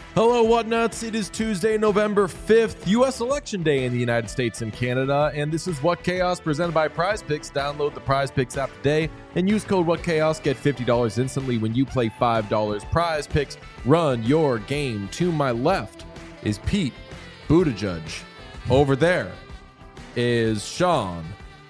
Hello, Whatnuts. It is Tuesday, November 5th, U.S. Election Day in the United States and Canada, and this is What Chaos presented by Prize Picks. Download the Prize Picks app today and use code What Chaos. Get $50 instantly when you play $5. Prize Picks, run your game. To my left is Pete Buttigieg. Over there is Sean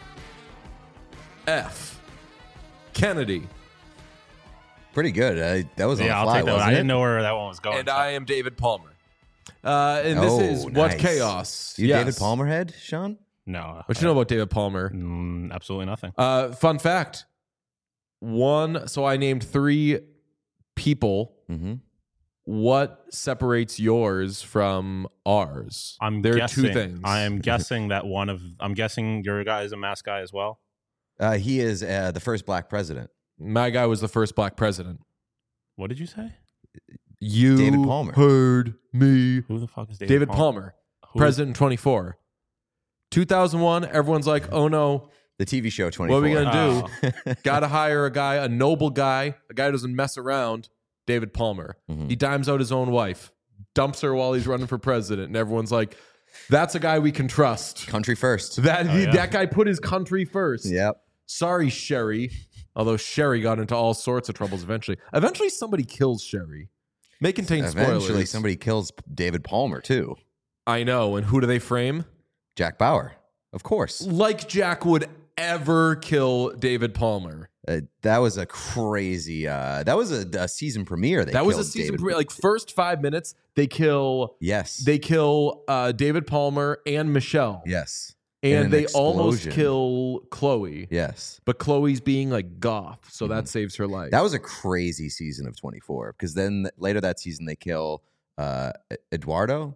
F. Kennedy. Pretty good. That was on the fly, I'll take that one. I didn't know where that one was going. And I am David Palmer. And this is What nice. Chaos. You Yes. David Palmer head, Sean? No. What you know about David Palmer? Absolutely nothing. Fun fact. So I named 3 people. Mm-hmm. What separates yours from ours? There are 2 things. I am guessing that I'm guessing your guy is a mask guy as well. He is the first black president. My guy was the first black president. What did you say? You David Palmer. heard me. Who the fuck is David Palmer. Who- President 24. 2001, everyone's like, oh no, The TV show 24. what are we going to do? Got to hire a guy, a noble guy, a guy who doesn't mess around, David Palmer. Mhm. He dimes out his own wife, dumps her while he's running for president, and everyone's like, that's a guy we can trust. Country first. That guy put his country first. Yep. Sorry, Sherry. Although Sherry got into all sorts of troubles eventually. Eventually, somebody kills Sherry. May contain Eventually, spoilers. somebody kills David Palmer, too. I know. And who do they frame? Jack Bauer. Of course. Like Jack would ever kill David Palmer. That was a crazy... that was a season premiere. That was a season premiere. Like, first 5 minutes, they kill... Yes. They kill David Palmer and Michelle. Yes. And an they almost explosion. kill Chloe. Yes. But Chloe's being like goth, so that saves her life. That was a crazy season of 24 because then later that season they kill Eduardo.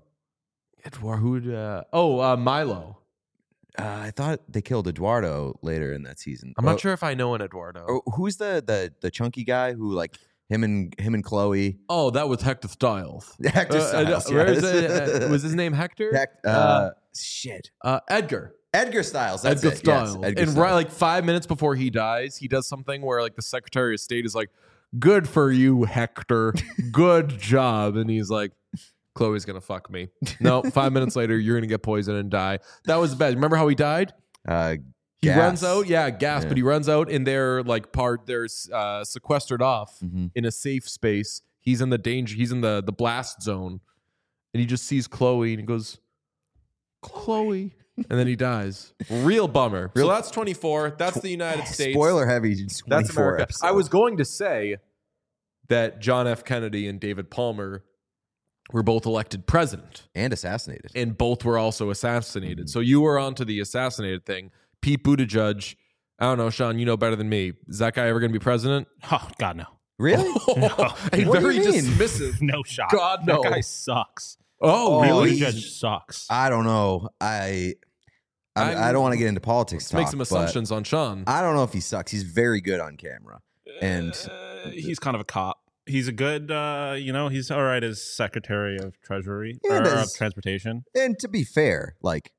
Milo. I thought they killed Eduardo later in that season. I'm not sure if I know an Eduardo. Or who's the chunky guy who like him and Chloe? Oh, that was Hector Styles. Hector Styles. Where is yes. it? Was his name Hector? Edgar. Edgar Styles. That's Edgar it. Styles. Yes, Edgar And Styles. right, like 5 minutes before he dies, he does something where like the Secretary of State is like, "Good for you, Hector. Good job." And he's like, "Chloe's gonna fuck me." No, 5 minutes later, you're gonna get poisoned and die. That was bad. Remember how he died? He Gas. runs out, gas, Yeah. but he runs out and they're sequestered off Mhm. in a safe space. He's in the blast zone, and he just sees Chloe and he goes, "Chloe," and then he dies. Real bummer. So that's 24. That's the United States. Spoiler heavy. 24 That's America. episode. I was going to say that John F. Kennedy and David Palmer were both elected president, and assassinated. and both were also assassinated. So you were onto the assassinated thing. Pete Buttigieg, I don't know, Sean, you know better than me. Is that guy ever going to be president? Oh, God, no. Really? Hey, What do very you mean? dismissive. No shot. God, no. That guy sucks. Oh, Oh, really? Really? he's- Judge sucks. I don't know. I don't want to get into politics. Let's make some but assumptions on Sean. I don't know if he sucks. He's very good on camera. And He's kind of a cop. He's a good, he's all right as Secretary of Treasury Yeah, or but of it's- Transportation. and to be fair, like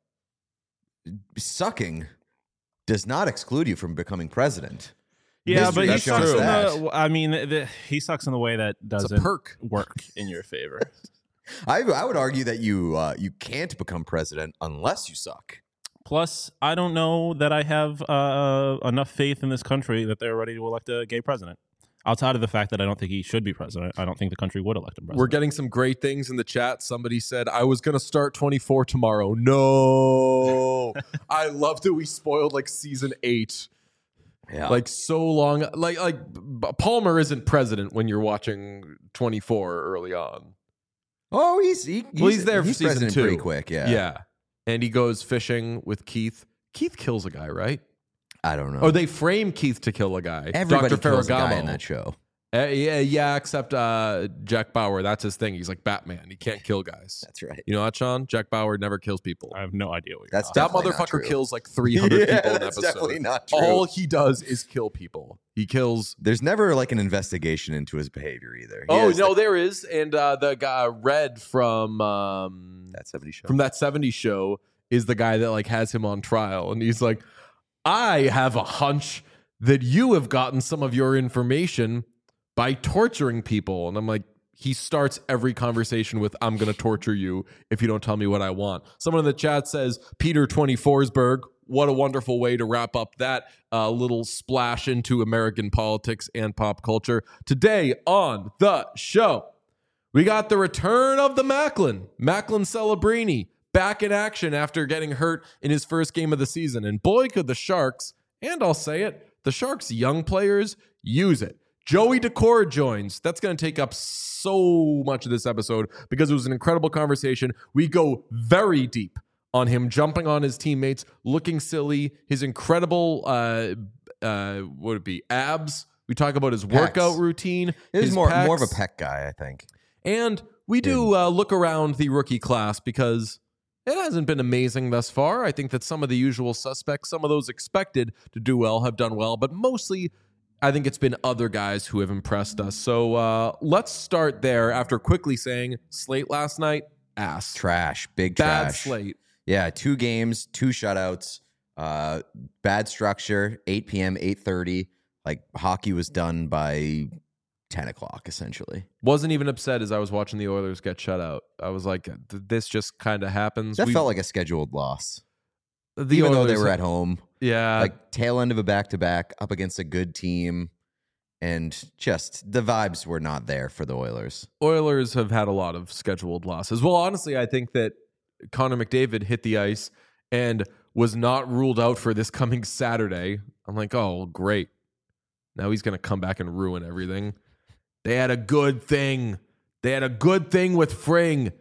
sucking does not exclude you from becoming president. Yeah, History but he has shown sucks in us the. I mean, he sucks in the way that It's a doesn't perk. work in your favor. I would argue that you can't become president unless you suck. Plus, I don't know that I have enough faith in this country that they're ready to elect a gay president. Outside of the fact that I don't think he should be president, I don't think the country would elect him president. We're getting some great things in the chat. Somebody said, I was going to start 24 tomorrow. No. I love that we spoiled like season 8. Yeah. Like so long. Like Palmer isn't president when you're watching 24 early on. Oh, he's there for season president 2. pretty quick. Yeah. Yeah. And he goes fishing with Keith. Keith kills a guy, right? I don't know. Or they frame Keith to kill a guy. Everybody Dr. kills a guy Ferragamo. in that show. Yeah, except Jack Bauer. That's his thing. He's like Batman. He can't kill guys. That's right. You know what, Sean? Jack Bauer never kills people. I have no idea what you're That's talking That definitely not motherfucker true. kills like 300 people in an That's episode. definitely not true. All he does is kill people. He kills. There's never like an investigation into his behavior either. He Oh has, no, like, there is. And the guy Red from that 70s show. from that 70s show is the guy that like has him on trial, and he's like, I have a hunch that you have gotten some of your information by torturing people. And I'm like, he starts every conversation with, I'm going to torture you if you don't tell me what I want. Someone in the chat says, Peter 24sburg. What a wonderful way to wrap up that little splash into American politics and pop culture. Today on the show, we got the return of the Macklin Celebrini, back in action after getting hurt in his first game of the season. And boy, could the Sharks, and I'll say it, the Sharks' young players use it. Joey Daccord joins. That's going to take up so much of this episode because it was an incredible conversation. We go very deep on him jumping on his teammates, looking silly, his incredible, what would it be, abs. We talk about his workout routine. He's more of a pec guy, I think. And we do look around the rookie class because it hasn't been amazing thus far. I think that some of the usual suspects, some of those expected to do well, have done well, but mostly I think it's been other guys who have impressed us. So let's start there after quickly saying slate last night, ass. Trash. Big Bad trash. slate. Yeah, 2 games, 2 shutouts, bad structure, 8 p.m., 8:30. Like, hockey was done by 10 o'clock, essentially. Wasn't even upset as I was watching the Oilers get shut out. I was like, this just kind of happens. That felt like a scheduled loss. Oilers, Even though they were at home. Yeah. Like, tail end of a back-to-back up against a good team. And just the vibes were not there for the Oilers. Oilers have had a lot of scheduled losses. Well, honestly, I think that Connor McDavid hit the ice and was not ruled out for this coming Saturday. I'm like, oh, great. Now he's going to come back and ruin everything. They had a good thing. They had a good thing with Fring.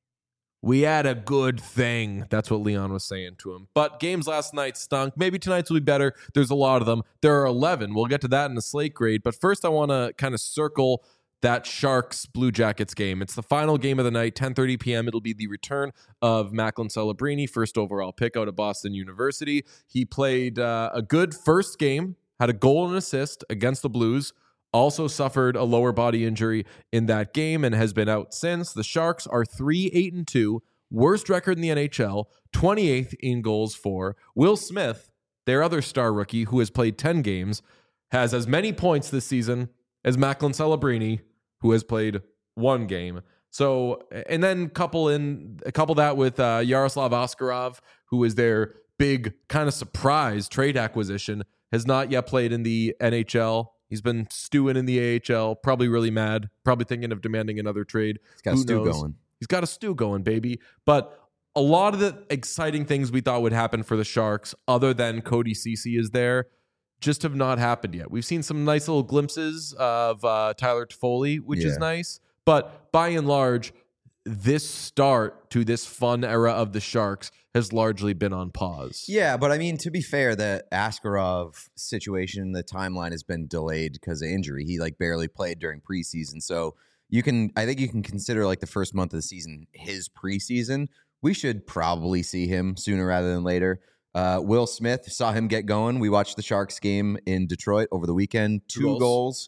We had a good thing. That's what Leon was saying to him. But games last night stunk. Maybe tonight's will be better. There's a lot of them. There are 11. We'll get to that in the slate grade. But first, I want to kind of circle that Sharks Blue Jackets game. It's the final game of the night, 10:30 p.m. It'll be the return of Macklin Celebrini, first overall pick out of Boston University. He played a good first game, had a goal and assist against the Blues, also suffered a lower body injury in that game and has been out since. The Sharks are 3-8-2, worst record in the NHL, 28th in goals for. Will Smith, their other star rookie who has played 10 games, has as many points this season as Macklin Celebrini, who has played 1 game. So, and then couple that with Yaroslav Askarov, who is their big kind of surprise trade acquisition, has not yet played in the NHL. He's been stewing in the AHL, probably really mad, probably thinking of demanding another trade. He's got a stew going. He's got a stew going, baby. But a lot of the exciting things we thought would happen for the Sharks, other than Cody Ceci is there, just have not happened yet. We've seen some nice little glimpses of Tyler Toffoli, which is nice. But by and large, this start to this fun era of the Sharks has largely been on pause. Yeah, but I mean, to be fair, the Askarov situation, the timeline has been delayed because of injury. He barely played during preseason. So I think you can consider the first month of the season his preseason. We should probably see him sooner rather than later. Will Smith, saw him get going. We watched the Sharks game in Detroit over the weekend. 2 goals.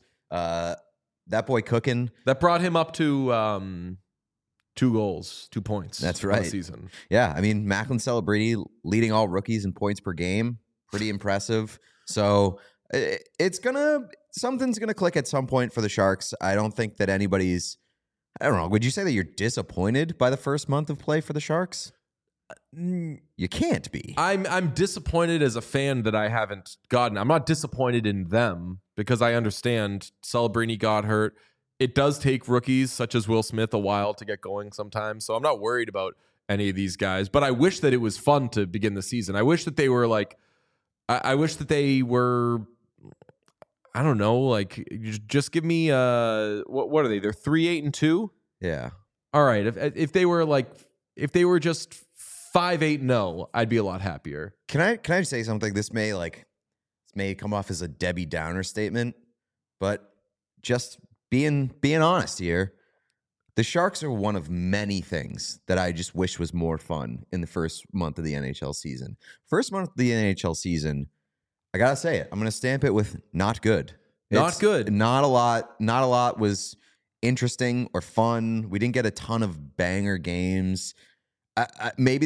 That boy cooking. That brought him up to 2 goals, 2 points. That's right. Season. Yeah, I mean, Macklin Celebrini leading all rookies in points per game. Pretty impressive. So something's gonna click at some point for the Sharks. I don't think that anybody's. I don't know. Would you say that you're disappointed by the first month of play for the Sharks? You can't be. I'm disappointed as a fan that I haven't gotten. I'm not disappointed in them because I understand Celebrini got hurt. It does take rookies such as Will Smith a while to get going sometimes, so I'm not worried about any of these guys. But I wish that it was fun to begin the season. I wish that they were I wish that they were. I don't know. Just give me what are they? They're 3-8-2. Yeah. All right. If they were just 5-8-0, I'd be a lot happier. Can I say something? This may come off as a Debbie Downer statement, but just being honest here, the Sharks are one of many things that I just wish was more fun in the first month of the NHL season. First month of the NHL season, I gotta say it. I'm gonna stamp it with not good. Not good. Not a lot was interesting or fun. We didn't get a ton of banger games. Maybe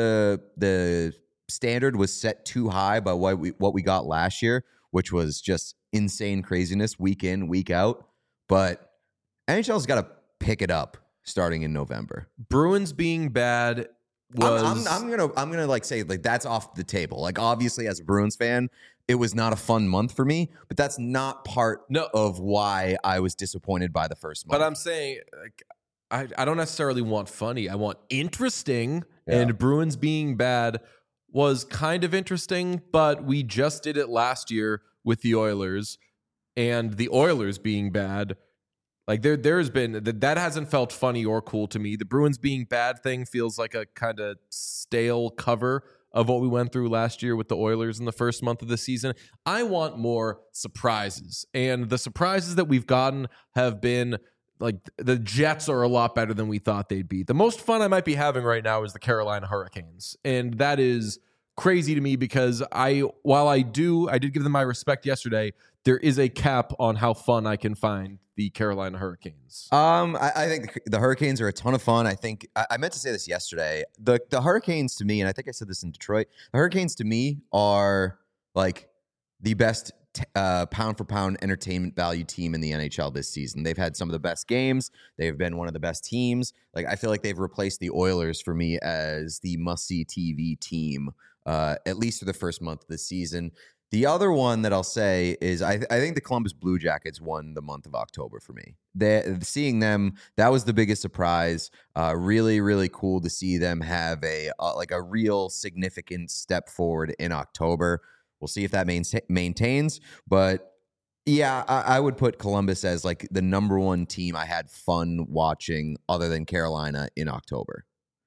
the standard was set too high by what we got last year, which was just insane craziness week in, week out. But NHL's got a pick it up starting in November. Bruins being bad was. I'm gonna like say like that's off the table. Like obviously as a Bruins fan, it was not a fun month for me, but that's not part of why I was disappointed by the first month. But I'm saying like, I don't necessarily want funny. I want interesting. Yeah. And Bruins being bad was kind of interesting, but we just did it last year with the Oilers, and the Oilers being bad. Like there's been that hasn't felt funny or cool to me. The Bruins being bad thing feels like a kind of stale cover of what we went through last year with the Oilers in the first month of the season. I want more surprises, and the surprises that we've gotten have been like the Jets are a lot better than we thought they'd be. The most fun I might be having right now is the Carolina Hurricanes, and that is crazy to me because while I did give them my respect yesterday, there is a cap on how fun I can find the Carolina Hurricanes. I think the Hurricanes are a ton of fun. I think I meant to say this yesterday. The Hurricanes to me, and I think I said this in Detroit, the Hurricanes to me are like the best pound for pound entertainment value team in the NHL this season. They've had some of the best games. They've been one of the best teams. Like I feel like they've replaced the Oilers for me as the must-see TV team, at least for the first month of the season. The other one that I'll say is I think the Columbus Blue Jackets won the month of October for me. Seeing them, that was the biggest surprise. Really, really cool to see them have a real significant step forward in October. We'll see if that maintains. But yeah, I would put Columbus as like the number one team I had fun watching other than Carolina in October.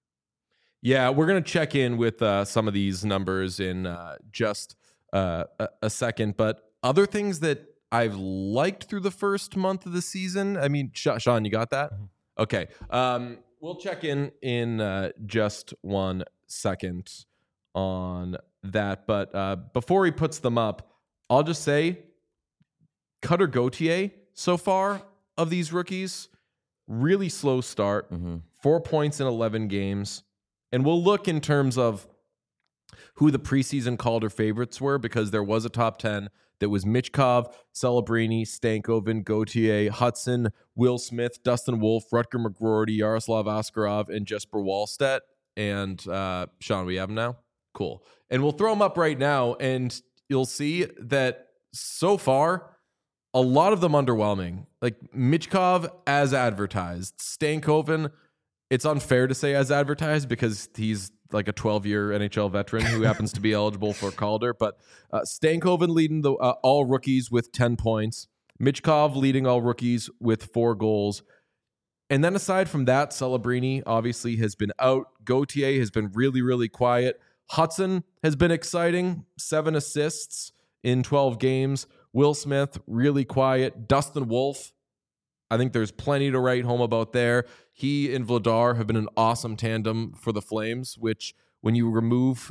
Yeah, we're going to check in with some of these numbers in just a second. But other things that I've liked through the first month of the season. I mean, Sean, you got that? Mm-hmm. Okay. We'll check in just 1 second on that. But before he puts them up, I'll just say Cutter Gauthier so far of these rookies, really slow start, 4 points in 11 games. And we'll look in terms of who the preseason Calder favorites were, because there was a top 10 that was Michkov, Celebrini, Stankoven, Gauthier, Hudson, Will Smith, Dustin Wolf, Rutger McGroarty, Yaroslav Askarov, and Jesper Wallstedt. And Sean, we have them now? Cool. And we'll throw them up right now, and you'll see that so far, a lot of them underwhelming. Like Michkov as advertised. Stankoven, it's unfair to say as advertised because he's like a 12-year NHL veteran who happens to be eligible for Calder. But Stankoven leading the all rookies with 10 points. Michkov leading all rookies with 4 goals. And then aside from that, Celebrini obviously has been out. Gauthier has been really, really quiet. Hudson has been exciting. 7 assists in 12 games. Will Smith, really quiet. Dustin Wolf, I think there's plenty to write home about there. He and Vladar have been an awesome tandem for the Flames, which when you remove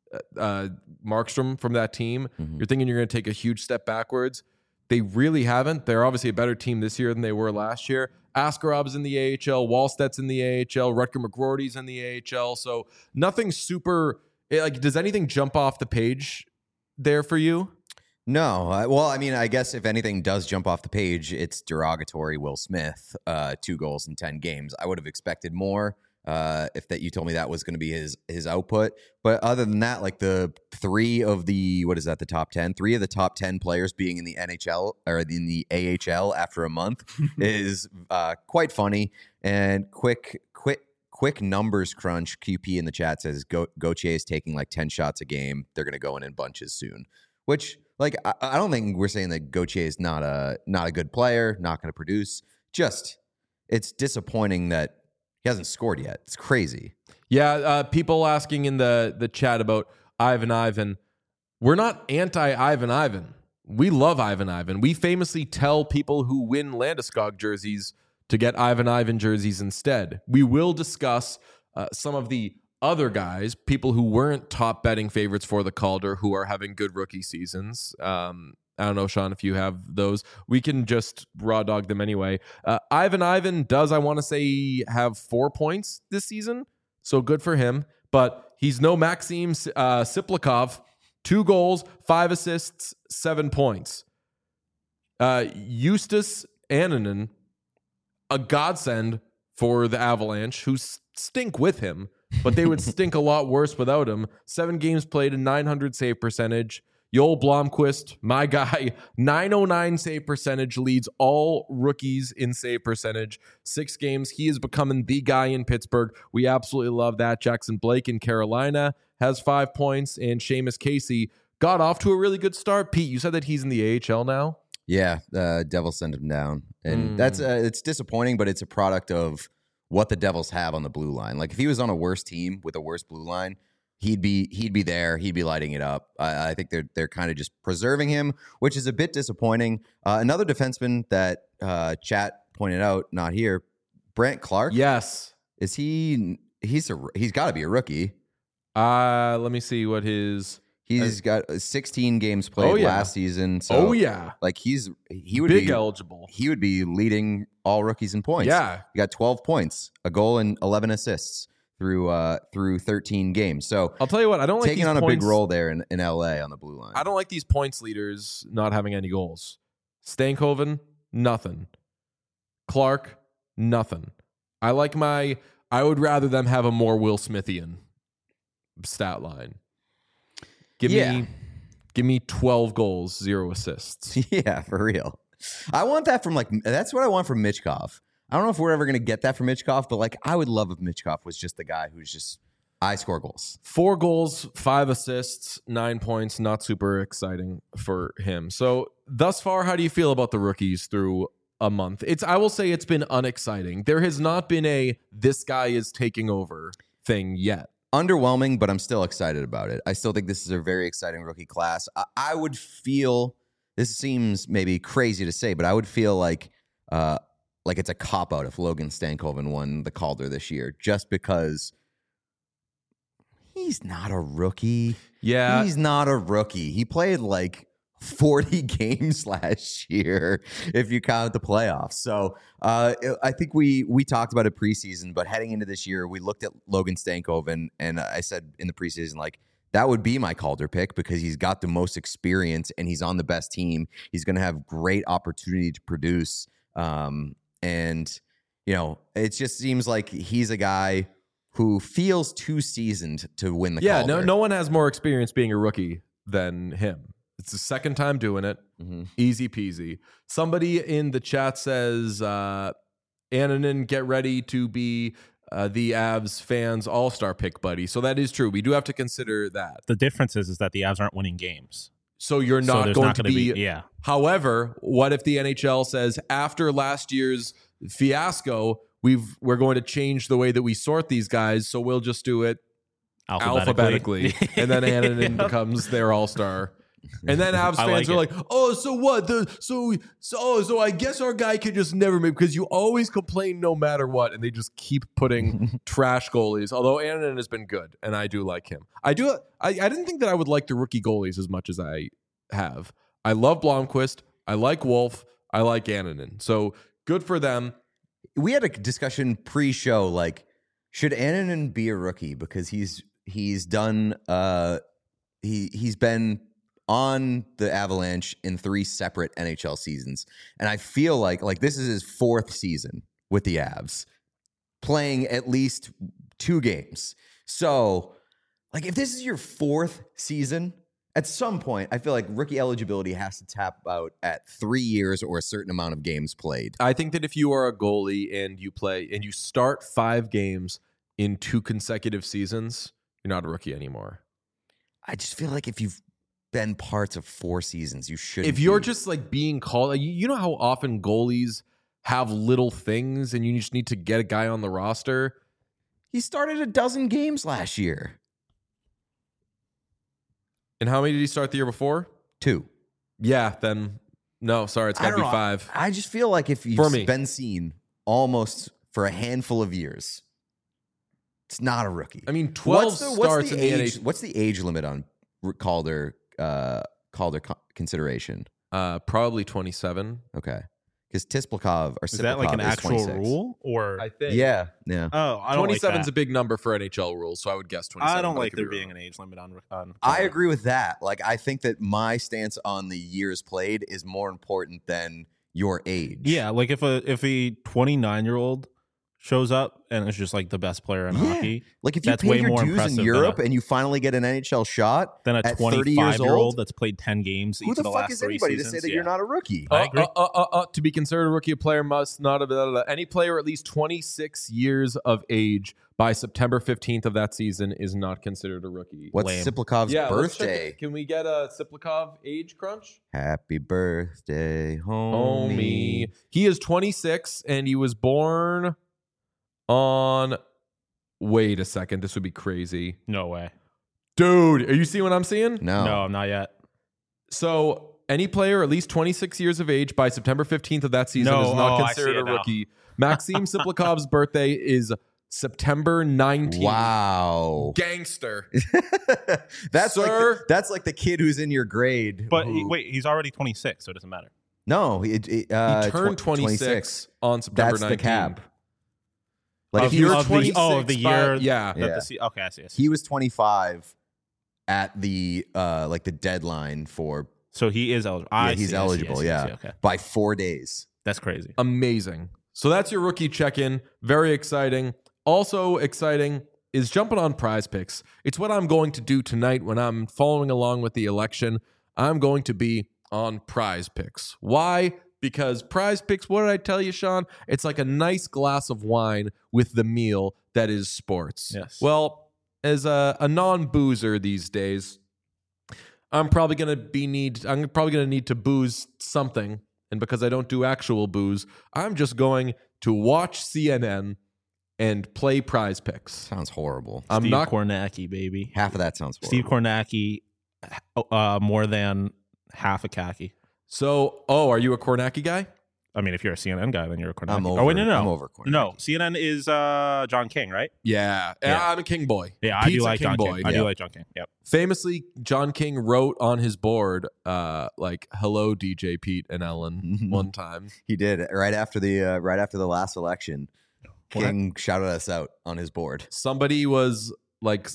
Markstrom from that team, you're thinking you're going to take a huge step backwards. They really haven't. They're obviously a better team this year than they were last year. Askarov's in the AHL. Wallstedt's in the AHL. Rutger McGroarty's in the AHL. So nothing super... Like, does anything jump off the page there for you? No. Well, I mean, I guess if anything does jump off the page, it's derogatory Will Smith, 2 goals in 10 games. I would have expected more if that you told me that was going to be his output. But other than that, like the 3 of the, what is that, the top 10? 3 of the top 10 players being in the NHL or in the AHL after a month is quite funny. And quick numbers crunch. QP in the chat says Gauthier is taking like 10 shots a game. They're going to go in bunches soon, which... Like, I don't think we're saying that Gauthier is not a good player, not going to produce. Just, it's disappointing that he hasn't scored yet. It's crazy. Yeah, people asking in the chat about Ivan. We're not anti-Ivan. We love Ivan. We famously tell people who win Landeskog jerseys to get Ivan jerseys instead. We will discuss some of the other guys, people who weren't top betting favorites for the Calder, who are having good rookie seasons. I don't know, Sean, if you have those. We can just raw dog them anyway. Ivan does, I want to say, have 4 points this season, so good for him. But he's no Maxim Siplikov. 2 goals, 5 assists, 7 points. Justus Annunen, a godsend for the Avalanche, who stink with him, but they would stink a lot worse without him. 7 games played, a 900 save percentage. Joel Blomqvist, my guy, 909 save percentage, leads all rookies in save percentage. 6 games, he is becoming the guy in Pittsburgh. We absolutely love that. Jackson Blake in Carolina has 5 points, and Seamus Casey got off to a really good start. Pete, you said that he's in the AHL now? Yeah, Devils sent him down, and that's it's disappointing, but it's a product of what the Devils have on the blue line. Like if he was on a worse team with a worse blue line, he'd be there. He'd be lighting it up. I think they're kind of just preserving him, which is a bit disappointing. Another defenseman that chat pointed out, not here, Brent Clark. Yes. Is he? He's got to be a rookie. Let me see what his. He's got 16 games played last season. So like he would big be eligible. He would be leading all rookies in points. Yeah, he got 12 points, a goal, and 11 assists through 13 games. So I'll tell you what, I don't like taking on a big role there in LA on the blue line. I don't like these points leaders not having any goals. Stankoven, nothing. Clark, nothing. I would rather them have a more Will Smithian stat line. Give me 12 goals, 0 assists. Yeah, for real. I want that from that's what I want from Michkov. I don't know if we're ever going to get that from Michkov, but I would love if Michkov was just the guy who's just, I score goals. 4 goals, 5 assists, 9 points. Not super exciting for him. So thus far, how do you feel about the rookies through a month? I will say it's been unexciting. There has not been this guy is taking over thing yet. Underwhelming, but I'm still excited about it. I still think this is a very exciting rookie class. I would feel, this seems maybe crazy to say, but I would feel like it's a cop-out if Logan Stankoven won the Calder this year, just because he's not a rookie. Yeah. He's not a rookie. He played 40 games last year if you count the playoffs. So I think we talked about it preseason, but heading into this year, we looked at Logan Stankoven, and I said in the preseason, that would be my Calder pick because he's got the most experience and he's on the best team. He's going to have great opportunity to produce. And, it just seems like he's a guy who feels too seasoned to win the Calder. No one has more experience being a rookie than him. It's the second time doing it. Mm-hmm. Easy peasy. Somebody in the chat says, Annunen, get ready to be the Avs fans all-star pick, buddy. So that is true. We do have to consider that. The difference is that the Avs aren't winning games. So you're not going to be. Yeah. However, what if the NHL says after last year's fiasco, we're going to change the way that we sort these guys, so we'll just do it alphabetically. And then Annunen becomes their all-star. And then Avs fans are like, oh, so what? So I guess our guy could just never make, because you always complain no matter what, and they just keep putting trash goalies. Although Annunen has been good, and I do like him. I didn't think that I would like the rookie goalies as much as I have. I love Blomqvist. I like Wolf. I like Annunen. So good for them. We had a discussion pre-show, should Annunen be a rookie because he's done he's been on the Avalanche in 3 separate NHL seasons. And I feel like this is his 4th season with the Avs, playing at least 2 games. So, if this is your 4th season, at some point, I feel like rookie eligibility has to tap out at 3 years or a certain amount of games played. I think that if you are a goalie and you start 5 games in 2 consecutive seasons, you're not a rookie anymore. I just feel like if you've been parts of 4 seasons, you shouldn't. If you're just being called, you know how often goalies have little things and you just need to get a guy on the roster. He started a dozen games last year. And how many did he start the year before? 2. Yeah, then no, sorry, it's got to be 5. I just feel like if you've been seen almost for a handful of years, it's not a rookie. I mean, 12 starts in the NHL. What's the age limit on Calder consideration? Probably 27. Okay. Because Tisplikov or is that an actual 26. Rule? Or I think. Yeah. Oh, I don't 27 like is a big number for NHL rules, so I would guess 27. I don't like there being an age limit on I agree with that. I think that my stance on the years played is more important than your age. Yeah, like if a 29-year-old shows up and is just like the best player in hockey, Like if you that's paid way your more dues impressive in Europe and you finally get an NHL shot than a at 30 years 25-year-old old, that's played 10 games who each the of the fuck last is 3 anybody seasons. to say that you're not a rookie? I agree. To be considered a rookie, a player must not have any player at least 26 years of age by September 15th of that season is not considered a rookie. What's Lame. Siplikov's Let's check birthday? it. Can we get a Siplikov age crunch? Happy birthday, homie. He is 26 and he was born on. Wait a second. This would be crazy. No way. Dude, are you seeing what I'm seeing? No, not yet. So any player at least 26 years of age by September 15th of that season is not I see considered it a now. rookie. Maxim Siplikov's birthday is September 19th. Wow. Gangster. that's Sir? that's like the kid who's in your grade. But who- wait, he's already 26, so it doesn't matter. no, He turned 26 on September That's 19th. the cap. Like If if he you're was, of the 26 by- year. yeah. that Yeah. okay, I see. he was 25 at the like the deadline for So he is eligible. he's eligible, yeah. Okay, by 4 days. that's crazy. Amazing. So that's your rookie check-in. Very exciting. Also exciting is jumping on Prize Picks. It's what I'm going to do tonight when I'm following along with the election. I'm going to be on Prize Picks. Why? Because Prize Picks, what did I tell you, Sean? It's like a nice glass of wine with the meal that is sports. Yes. Well, as a non-boozer these days, I'm probably gonna need to booze something. And because I don't do actual booze, I'm just going to watch CNN and play Prize Picks. Sounds horrible. I'm Steve not. Kornacki, baby. Half of that sounds horrible. Steve Kornacki, more than half a khaki. So, are you a Kornacki guy? I mean, if you're a CNN guy, then you're a Kornacki. I'm over. Oh wait, no. I'm over Kornacki. No, CNN is John King, right? Yeah, Yeah. I'm a King boy. Yeah, I Pizza do like King John boy. King. I do like John King. Yep. Famously, John King wrote on his board, like "Hello, DJ Pete and Ellen" one time. He did right after the last election. What? King shouted us out on his board. Somebody was like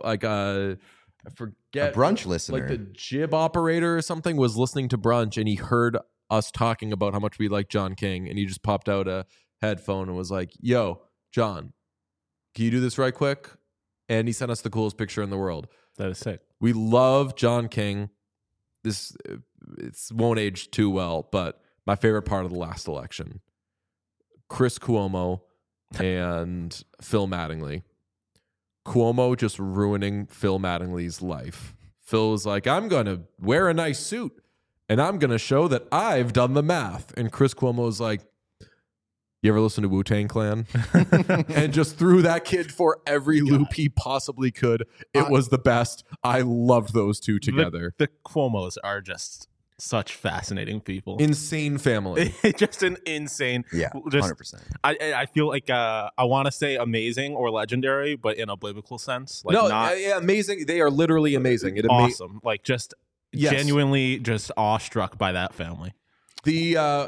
I forget A brunch listener. like the jib operator or something was listening to brunch and he heard us talking about how much we like John King and he just popped out a headphone and was like, "Yo, John, can you do this right quick?" And he sent us the coolest picture in the world. That is sick. We love John King. It won't age too well, but my favorite part of the last election, Chris Cuomo and Phil Mattingly. Cuomo just ruining Phil Mattingly's life. Phil was like, "I'm going to wear a nice suit and I'm going to show that I've done the math." And Chris Cuomo was like, "You ever listen to Wu-Tang Clan?" And just threw that kid for every loop he possibly could. It was the best. I loved those two together. The Cuomos are just such fascinating people. Insane family. Just an insane. Yeah, just 100%. I feel like I want to say amazing or legendary, but in a biblical sense, like No, not yeah, amazing. They are literally amazing. It awesome. Like just Yes. genuinely just awestruck by that family. The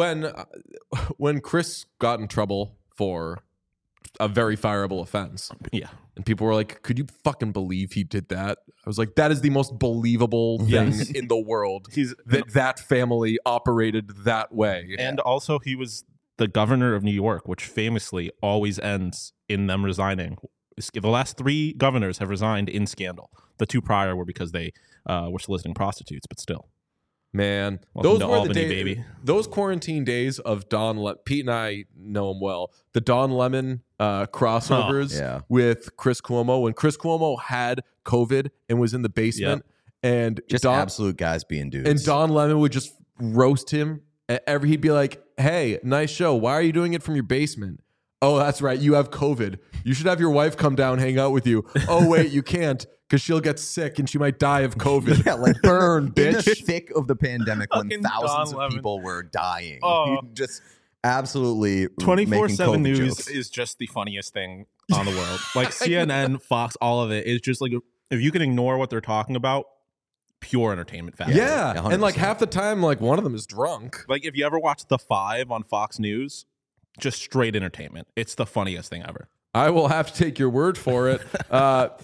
when Chris got in trouble for a very fireable offense, Yeah. and people were like, "Could you fucking believe he did that?" I was like, "That is the most believable thing Yes. in the world." He's That family operated that way. and also he was the governor of New York, which famously always ends in them resigning. The last 3 governors have resigned in scandal. The 2 prior were because they were soliciting prostitutes, but still. Man, Welcome those to were Albany, the days. baby. Those quarantine days of Pete and I know him well. The Don Lemon crossovers yeah. with Chris Cuomo when Chris Cuomo had COVID and was in the basement, and Just absolute guys being dudes. and Don Lemon would just roast him. He'd be like, "Hey, nice show. Why are you doing it from your basement?" "Oh, that's right. You have COVID. You should have your wife come down, hang out with you." "Oh, wait, you can't because she'll get sick and she might die of COVID." Yeah, like Burn, in the bitch. thick of the pandemic when Fucking thousands Don of Lemon. people were dying. Oh. Just absolutely 24/7 making COVID news jokes. is just the funniest thing on the world. Like CNN, Fox, all of it is just like if you can ignore what they're talking about, pure entertainment value. Yeah, 100%. and like half the time, like one of them is drunk. Like if you ever watch The 5 on Fox News, just straight entertainment. It's the funniest thing ever. I will have to take your word for it.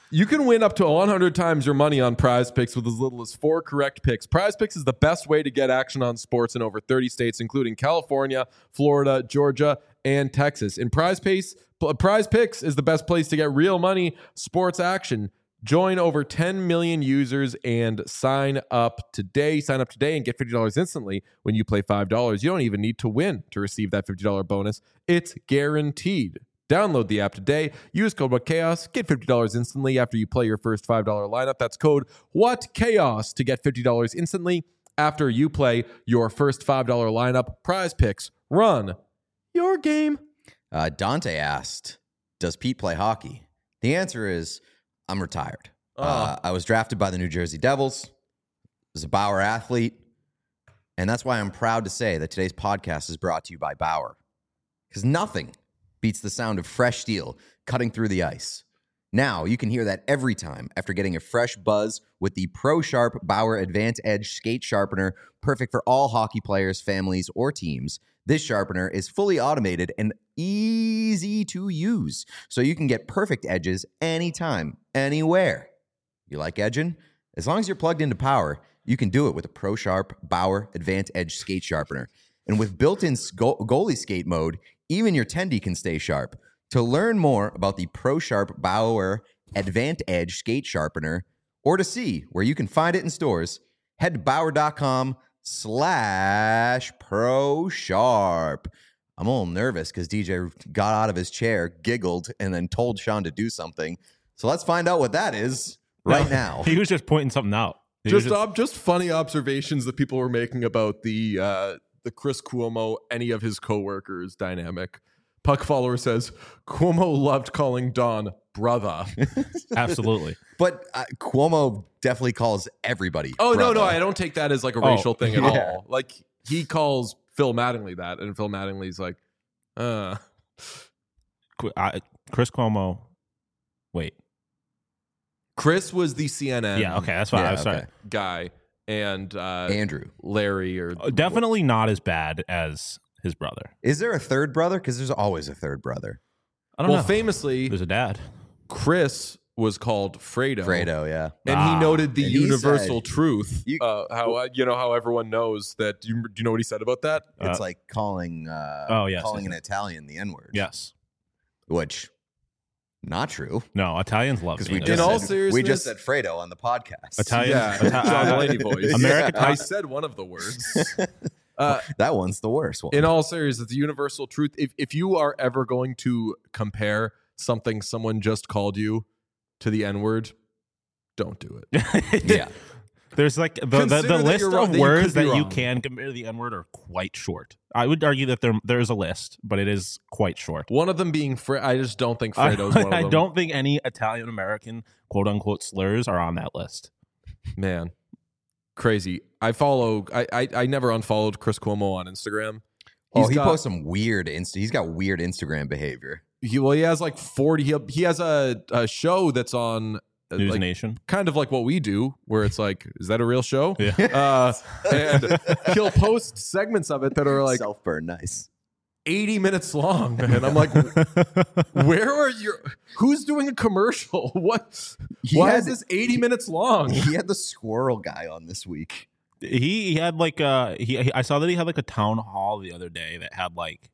You can win up to 100 times your money on Prize Picks with as little as 4 correct picks. Prize Picks is the best way to get action on sports in over 30 states, including California, Florida, Georgia, and Texas. And Prize Picks is the best place to get real money sports action. Join over 10 million users and sign up today. Sign up today and get $50 instantly when you play $5. You don't even need to win to receive that $50 bonus. It's guaranteed. Download the app today. Use code WhatChaos. Get $50 instantly after you play your first $5 lineup. That's code WhatChaos to get $50 instantly after you play your first $5 lineup. Prize Picks. Run your game. Dante asked, does Pete play hockey? The answer is, I'm retired. I was drafted by the New Jersey Devils. Was a Bauer athlete. And that's why I'm proud to say that today's podcast is brought to you by Bauer. Because nothing beats the sound of fresh steel cutting through the ice. Now you can hear that every time after getting a fresh buzz with the Pro Sharp Bauer Advanced Edge Skate Sharpener, perfect for all hockey players, families, or teams. This sharpener is fully automated and easy to use, so you can get perfect edges anytime, anywhere. You like edging? As long as you're plugged into power, you can do it with a Pro Sharp Bauer Advanced Edge Skate Sharpener. And with built-in goalie skate mode, even your tendy can stay sharp. To learn more about the Pro Sharp Bauer Advanced Edge Skate Sharpener, or to see where you can find it in stores, head to bauer.com/Pro Sharp. I'm a little nervous because DJ got out of his chair, giggled, and then told Sean to do something. So let's find out what that is right now. He was just pointing something out. Just funny observations that people were making about the Chris Cuomo, any of his coworkers dynamic. Puck follower says Cuomo loved calling Don brother. Absolutely. But Cuomo definitely calls everybody. Oh, brother. no, I don't take that as like a racial thing at all. Like he calls Phil Mattingly that, and Phil Mattingly's like, Chris Cuomo. Wait. Chris was the CNN Yeah, okay, that's fine. Yeah, I was sorry. okay. guy, and Andrew. Larry, or Definitely not as bad as his brother. Is there a third brother? Because there's always a third brother. I don't know. Famously, There's a dad. Chris was called Fredo. Fredo, yeah. And he noted the And he universal said, truth. How everyone knows that. Do you know what he said about that? It's like calling yes, calling yes, an Italian the N-word. Yes. Which, not true. No, Italians love Because being we In a- all just seriousness- said Fredo on the podcast. Italians. Yeah, John Mulaney voice. American- I said one of the words. That one's the worst one. In all seriousness, the universal truth. If you are ever going to compare something someone just called you to the N-word, don't do it. Yeah. There's like the Consider that list you're wrong, of that you words could be that you wrong. can compare to the N-word are quite short. I would argue that there is a list, but it is quite short. One of them being I just don't think Fredo's one of them. I don't think any Italian American quote unquote slurs are on that list. Man, crazy. I never unfollowed Chris Cuomo on Instagram. He posts some weird he's got weird Instagram behavior. He has like 40. He has a show that's on News like, Nation. kind of like what we do, where it's like, is that a real show? Yeah. And he'll post segments of it that are like Self-burn, nice. 80 minutes long, and I'm like, where are you? Who's doing a commercial? What? Why is this 80 minutes long? He had the squirrel guy on this week. He had like I saw that he had like a town hall the other day that had like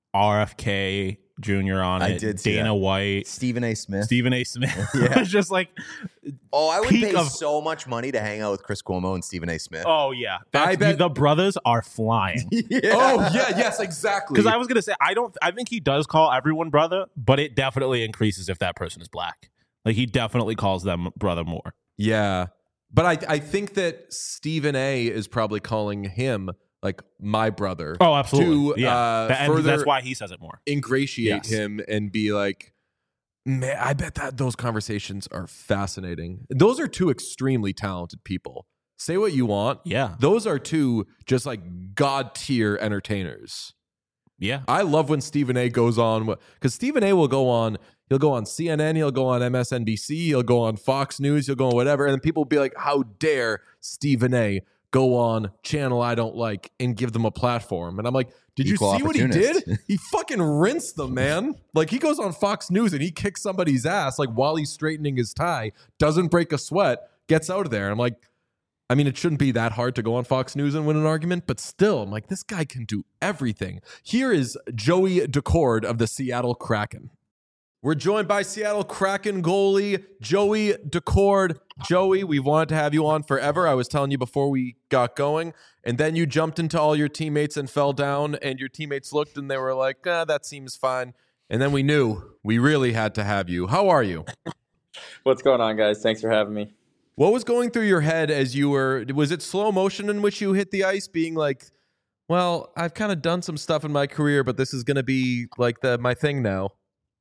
RFK Jr. on I it. did see Dana that. White, Stephen A. Smith. Stephen A. Smith. Yeah. It was just like, Oh, I would peak pay of- so much money to hang out with Chris Cuomo and Stephen A. Smith. oh yeah, I bet- the brothers are flying. Yeah. Oh yeah, yes, exactly. Because I was gonna say I think he does call everyone brother, but it definitely increases if that person is black. Like he definitely calls them brother more. Yeah. But I think that Stephen A is probably calling him like my brother. Oh, absolutely. To And further that's why he says it more. ingratiate Yes. him and be like, man, I bet that those conversations are fascinating. Those are two extremely talented people. Say what you want. Yeah. Those are two just like god tier entertainers. Yeah. I love when Stephen A goes on, because Stephen A will go on. He'll go on CNN. He'll go on MSNBC. He'll go on Fox News. He'll go on whatever. And then people will be like, how dare Stephen A go on channel I don't like and give them a platform. And I'm like, did you Equal see what he did? opportunist. He fucking rinsed them, man. Like, he goes on Fox News and he kicks somebody's ass like while he's straightening his tie, doesn't break a sweat, gets out of there. And I'm like, I mean, it shouldn't be that hard to go on Fox News and win an argument, but still, I'm like, this guy can do everything. Here is Joey Decord of the Seattle Kraken. We're joined by Seattle Kraken goalie Joey Decord. Joey, we've wanted to have you on forever. I was telling you before we got going, and then you jumped into all your teammates and fell down, and your teammates looked and they were like, that seems fine. And then we knew we really had to have you. How are you? What's going on, guys? Thanks for having me. What was going through your head as you was it slow motion in which you hit the ice, being like, well, I've kind of done some stuff in my career, but this is going to be like my thing now?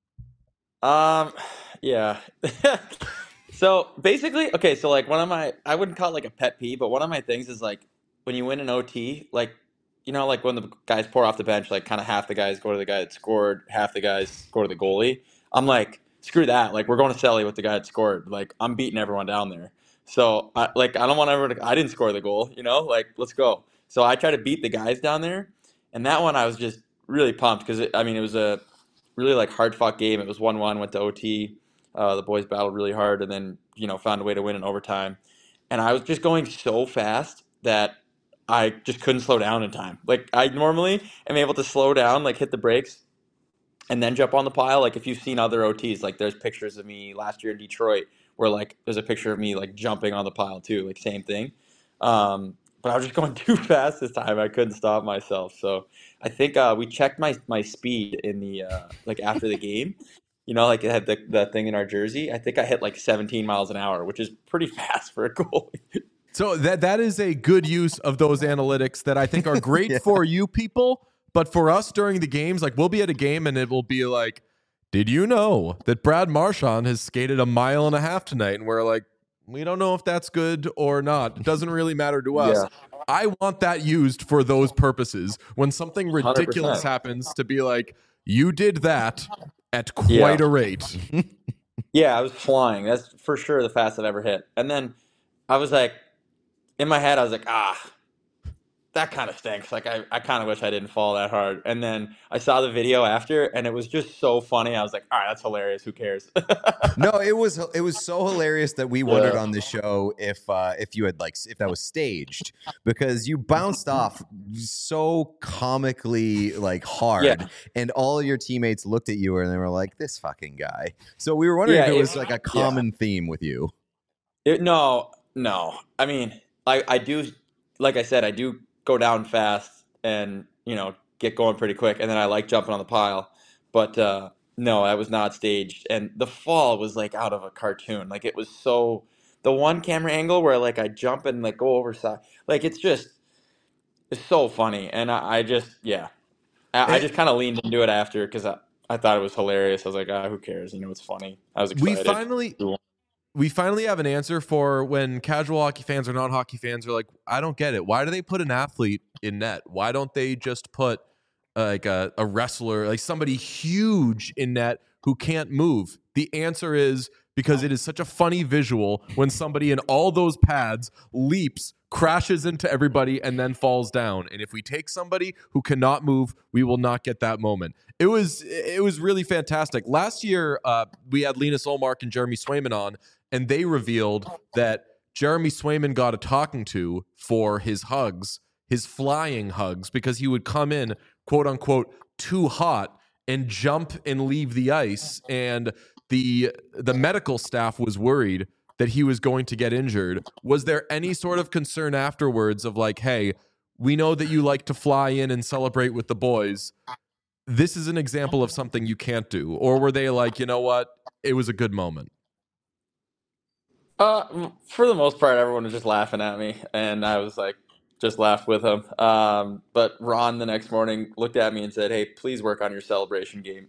Yeah. So basically, okay, so like I wouldn't call it like a pet peeve, but one of my things is like when you win an OT, like, like when the guys pour off the bench, like kind of half the guys go to the guy that scored, half the guys go to the goalie. I'm like, screw that. Like, we're going to Selly with the guy that scored. Like, I'm beating everyone down there. So I don't want everyone I didn't score the goal, like, let's go. So I try to beat the guys down there. And that one I was just really pumped because it was a really like hard fought game. It was 1-1, went to OT. The boys battled really hard and then, found a way to win in overtime. And I was just going so fast that I just couldn't slow down in time. Like, I normally am able to slow down, like hit the brakes and then jump on the pile. Like, if you've seen other OTs, like there's pictures of me last year in Detroit where like there's a picture of me like jumping on the pile too, like same thing. But I was just going too fast this time. I couldn't stop myself. So I think we checked my speed in the like after the game. Like it had the thing in our jersey. I think I hit like 17 miles an hour, which is pretty fast for a goalie. So that is a good use of those analytics that I think are great Yeah. for you people. But for us during the games, like we'll be at a game and it will be like, did you know that Brad Marchand has skated 1.5 miles tonight? And we're like, we don't know if that's good or not. It doesn't really matter to us. Yeah. I want that used for those purposes. When something ridiculous 100%. happens, to be like, you did that at quite a rate. Yeah, I was flying. That's for sure the fastest I've ever hit. And then I was like, in my head, I was like, that kind of stinks. Like, I kind of wish I didn't fall that hard. And then I saw the video after, and it was just so funny. I was like, all right, that's hilarious. Who cares? No, it was so hilarious that we wondered on the show if you had if that was staged, because you bounced off so comically like hard, Yeah. and all your teammates looked at you and they were like, "This fucking guy." So we were wondering Yeah, if it was like a common theme with you. No. I mean, I do, like I said, I do go down fast and, get going pretty quick. And then I like jumping on the pile. But no, I was not staged. And the fall was like out of a cartoon. Like, it was so, the one camera angle where like I jump and like go over side, like it's so funny. And I just just kind of leaned into it after because I thought it was hilarious. I was like, who cares? It's funny. I was excited. We finally have an answer for when casual hockey fans or non-hockey fans are like, I don't get it. Why do they put an athlete in net? Why don't they just put like a wrestler, like somebody huge in net who can't move? The answer is because it is such a funny visual when somebody in all those pads leaps, crashes into everybody, and then falls down. And if we take somebody who cannot move, we will not get that moment. It was really fantastic. Last year, we had Linus Olmark and Jeremy Swayman on, and they revealed that Jeremy Swayman got a talking to for his hugs, his flying hugs, because he would come in, quote unquote, too hot and jump and leave the ice. And the medical staff was worried that he was going to get injured. Was there any sort of concern afterwards of like, hey, we know that you like to fly in and celebrate with the boys. This is an example of something you can't do. Or were they like, you know what? It was a good moment. For the most part, everyone was just laughing at me, and I was like, just laughed with them. But Ron the next morning looked at me and said, "Hey, please work on your celebration game."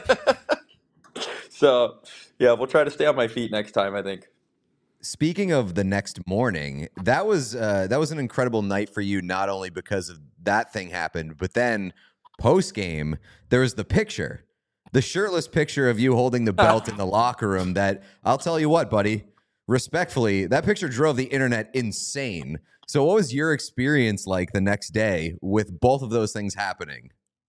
So, yeah, we'll try to stay on my feet next time, I think. Speaking of the next morning, that was an incredible night for you, not only because of that thing happened, but then post game, there was the shirtless picture of you holding the belt in the locker room that, I'll tell you what, buddy, respectfully, that picture drove the internet insane. So what was your experience like the next day with both of those things happening?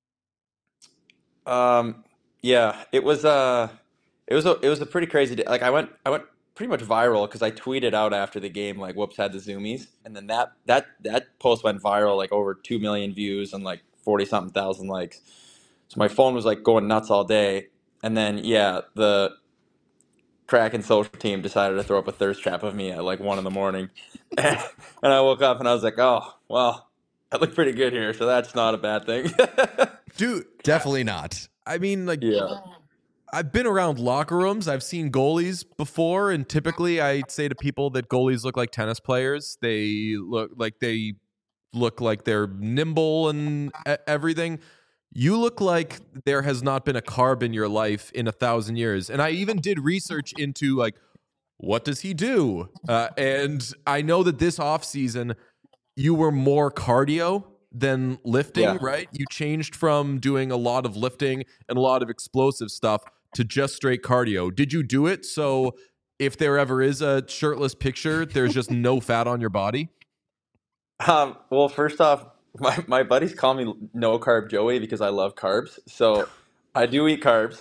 Yeah, it was a pretty crazy day. Like I went pretty much viral because I tweeted out after the game like whoops had the zoomies, and then that post went viral like over 2 million views and like 40 something thousand likes. So my phone was like going nuts all day, and then yeah, the Kraken social team decided to throw up a thirst trap of me at like 1 in the morning, and I woke up and I was like, oh well, I look pretty good here, so that's not a bad thing. Dude, Definitely not. I mean, like, Yeah. I've been around locker rooms. I've seen goalies before, and typically I say to people that goalies look like tennis players. They look like they're nimble and everything. You look like there has not been a carb in your life in 1,000 years. And I even did research into like, what does he do? And I know that this off season you were more cardio than lifting, Yeah. right? You changed from doing a lot of lifting and a lot of explosive stuff to just straight cardio. Did you do it so if there ever is a shirtless picture, there's just no fat on your body? Well, first off, my buddies call me no carb Joey because I love carbs. So I do eat carbs.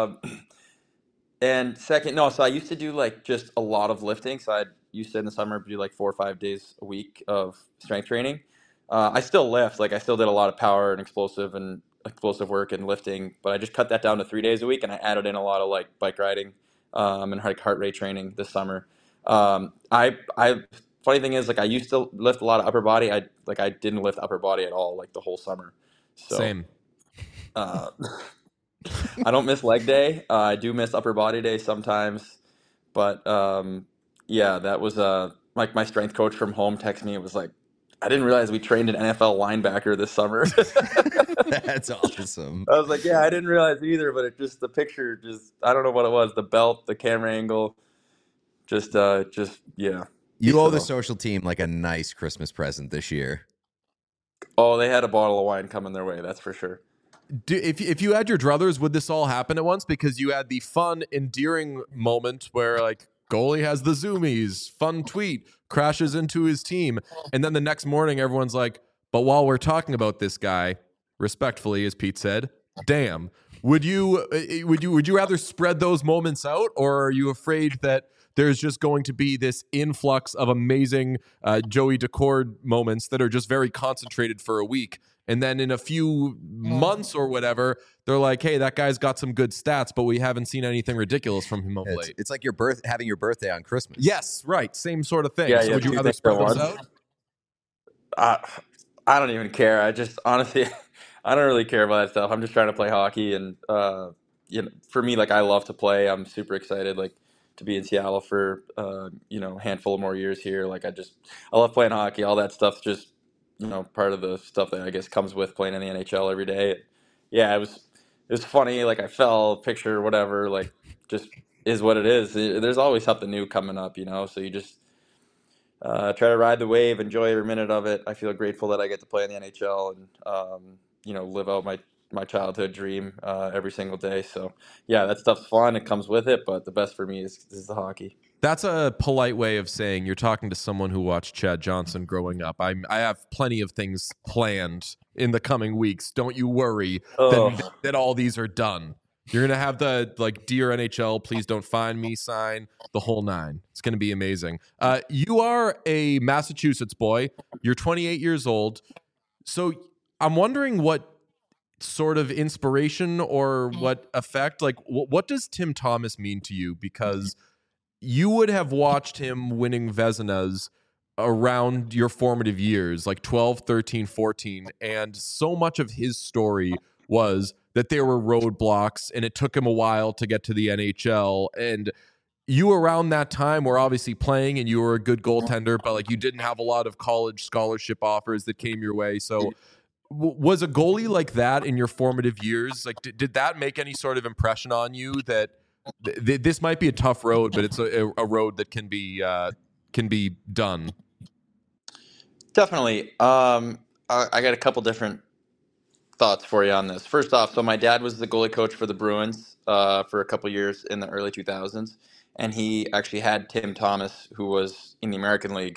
And second, no, so I used to do like just a lot of lifting. So I used to in the summer do like 4 or 5 days a week of strength training. I still lift, like I still did a lot of power and explosive work and lifting, but I just cut that down to 3 days a week and I added in a lot of like bike riding, and like heart rate training this summer. I funny thing is like I used to lift a lot of upper body. I didn't lift upper body at all like the whole summer. So Same. uh, I don't miss leg day. I do miss upper body day sometimes, but yeah, that was like my strength coach from home texted me. It was like, I didn't realize we trained an NFL linebacker this summer. That's awesome. I was like, yeah, I didn't realize either, but it just the picture just I don't know what it was, the belt, the camera angle, just yeah. You owe the So social team like a nice Christmas present this year. oh, they had a bottle of wine coming their way, that's for sure. If you had your druthers, would this all happen at once? Because you had the fun, endearing moment where like goalie has the zoomies, fun tweet, crashes into his team, and then the next morning everyone's like, "But while we're talking about this guy, respectfully, as Pete said, damn." Would you rather spread those moments out, or are you afraid that there's just going to be this influx of amazing Joey Decord moments that are just very concentrated for a week? And then in a few months or whatever, they're like, hey, that guy's got some good stats, but we haven't seen anything ridiculous from him of It's, late. it's like having your birthday on Christmas. Yes, right. Same sort of thing. Yeah, So yeah, would you two rather things spread at those once. out? I don't even care. I just honestly, I don't really care about that stuff. I'm just trying to play hockey, and for me, like I love to play. I'm super excited, like to be in Seattle for a handful of more years here. Like I love playing hockey. All that stuff's just part of the stuff that I guess comes with playing in the NHL every day. Yeah, it was funny. Like I fell, picture, whatever. Like just is what it is. There's always something new coming up, so you just try to ride the wave, enjoy every minute of it. I feel grateful that I get to play in the NHL and live out my childhood dream every single day. So yeah, that stuff's fun. It comes with it, but the best for me is the hockey. That's a polite way of saying you're talking to someone who watched Chad Johnson growing up. I have plenty of things planned in the coming weeks. Don't you worry Oh, that all these are done. You're gonna have the like Dear NHL, please don't find me sign, the whole nine. It's gonna be amazing. You are a Massachusetts boy. You're 28 years old. So I'm wondering what sort of inspiration or what effect, like what does Tim Thomas mean to you? Because you would have watched him winning Vezinas around your formative years, like 12, 13, 14. And so much of his story was that there were roadblocks and it took him a while to get to the NHL. And you around that time were obviously playing and you were a good goaltender, but like you didn't have a lot of college scholarship offers that came your way. So was a goalie like that in your formative years? Like, did that make any sort of impression on you that this might be a tough road, but it's a road that can be done? definitely. I got a couple different thoughts for you on this. First off, so my dad was the goalie coach for the Bruins for a couple years in the early 2000s, and he actually had Tim Thomas, who was in the American League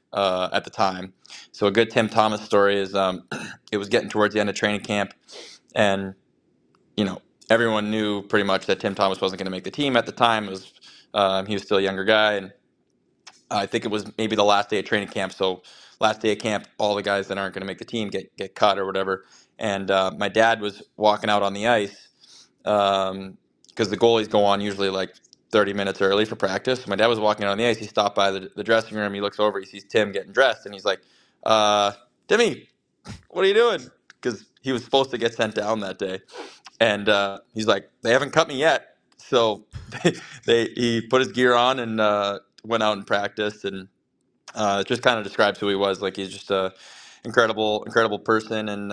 at the time. So a good Tim Thomas story is it was getting towards the end of training camp, and you know everyone knew pretty much that Tim Thomas wasn't going to make the team at the time. It was he was still a younger guy, and I think it was maybe the last day of training camp. So last day of camp, all the guys that aren't going to make the team get cut or whatever. And my dad was walking out on the ice because the goalies go on usually like 30 minutes early for practice. My dad was walking out on the ice. He stopped by the dressing room. He looks over. He sees Tim getting dressed, and he's like, "Timmy, what are you doing?" Because he was supposed to get sent down that day. And he's like, "They haven't cut me yet." So he put his gear on and went out and practiced, and it just kind of describes who he was. Like, he's just a incredible person, and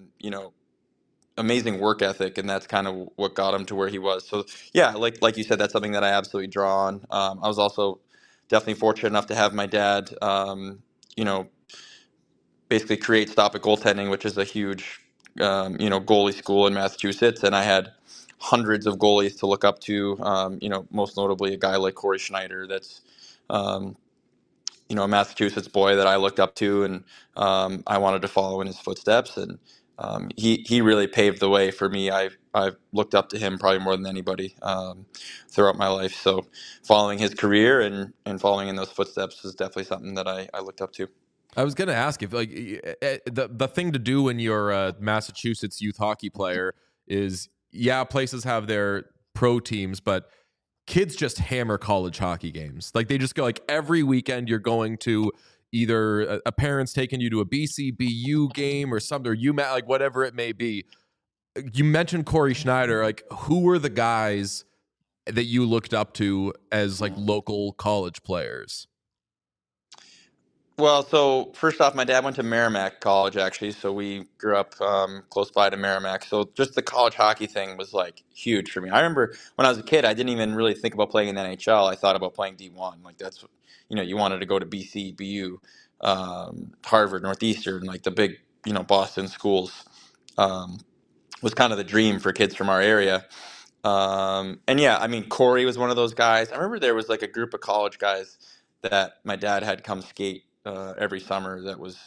amazing work ethic, and that's kind of what got him to where he was. So yeah, like you said, that's something that I absolutely draw on. I was also definitely fortunate enough to have my dad, you know, basically create Stop It Goaltending, which is a huge, goalie school in Massachusetts, and I had hundreds of goalies to look up to. Most notably a guy like Corey Schneider, that's um, a Massachusetts boy that I looked up to, and I wanted to follow in his footsteps. And he really paved the way for me. I've looked up to him probably more than anybody throughout my life. So following his career and following in those footsteps is definitely something that I looked up to. I was going to ask if the thing to do when you're a Massachusetts youth hockey player is, yeah, places have their pro teams, but kids just hammer college hockey games. Like, they just go, like, every weekend you're going to either a parent's taking you to a BCBU game or something, or UMass, like whatever it may be. You mentioned Corey Schneider. Like, who were the guys that you looked up to as like local college players? Well, so first off, my dad went to Merrimack College, actually. So we grew up close by to Merrimack. So just the college hockey thing was like huge for me. I remember when I was a kid, I didn't even really think about playing in the NHL. I thought about playing D1. Like, that's, you wanted to go to BC, BU, Harvard, Northeastern, like the big, Boston schools was kind of the dream for kids from our area. And yeah, I mean, Corey was one of those guys. I remember there was like a group of college guys that my dad had come skate every summer that was,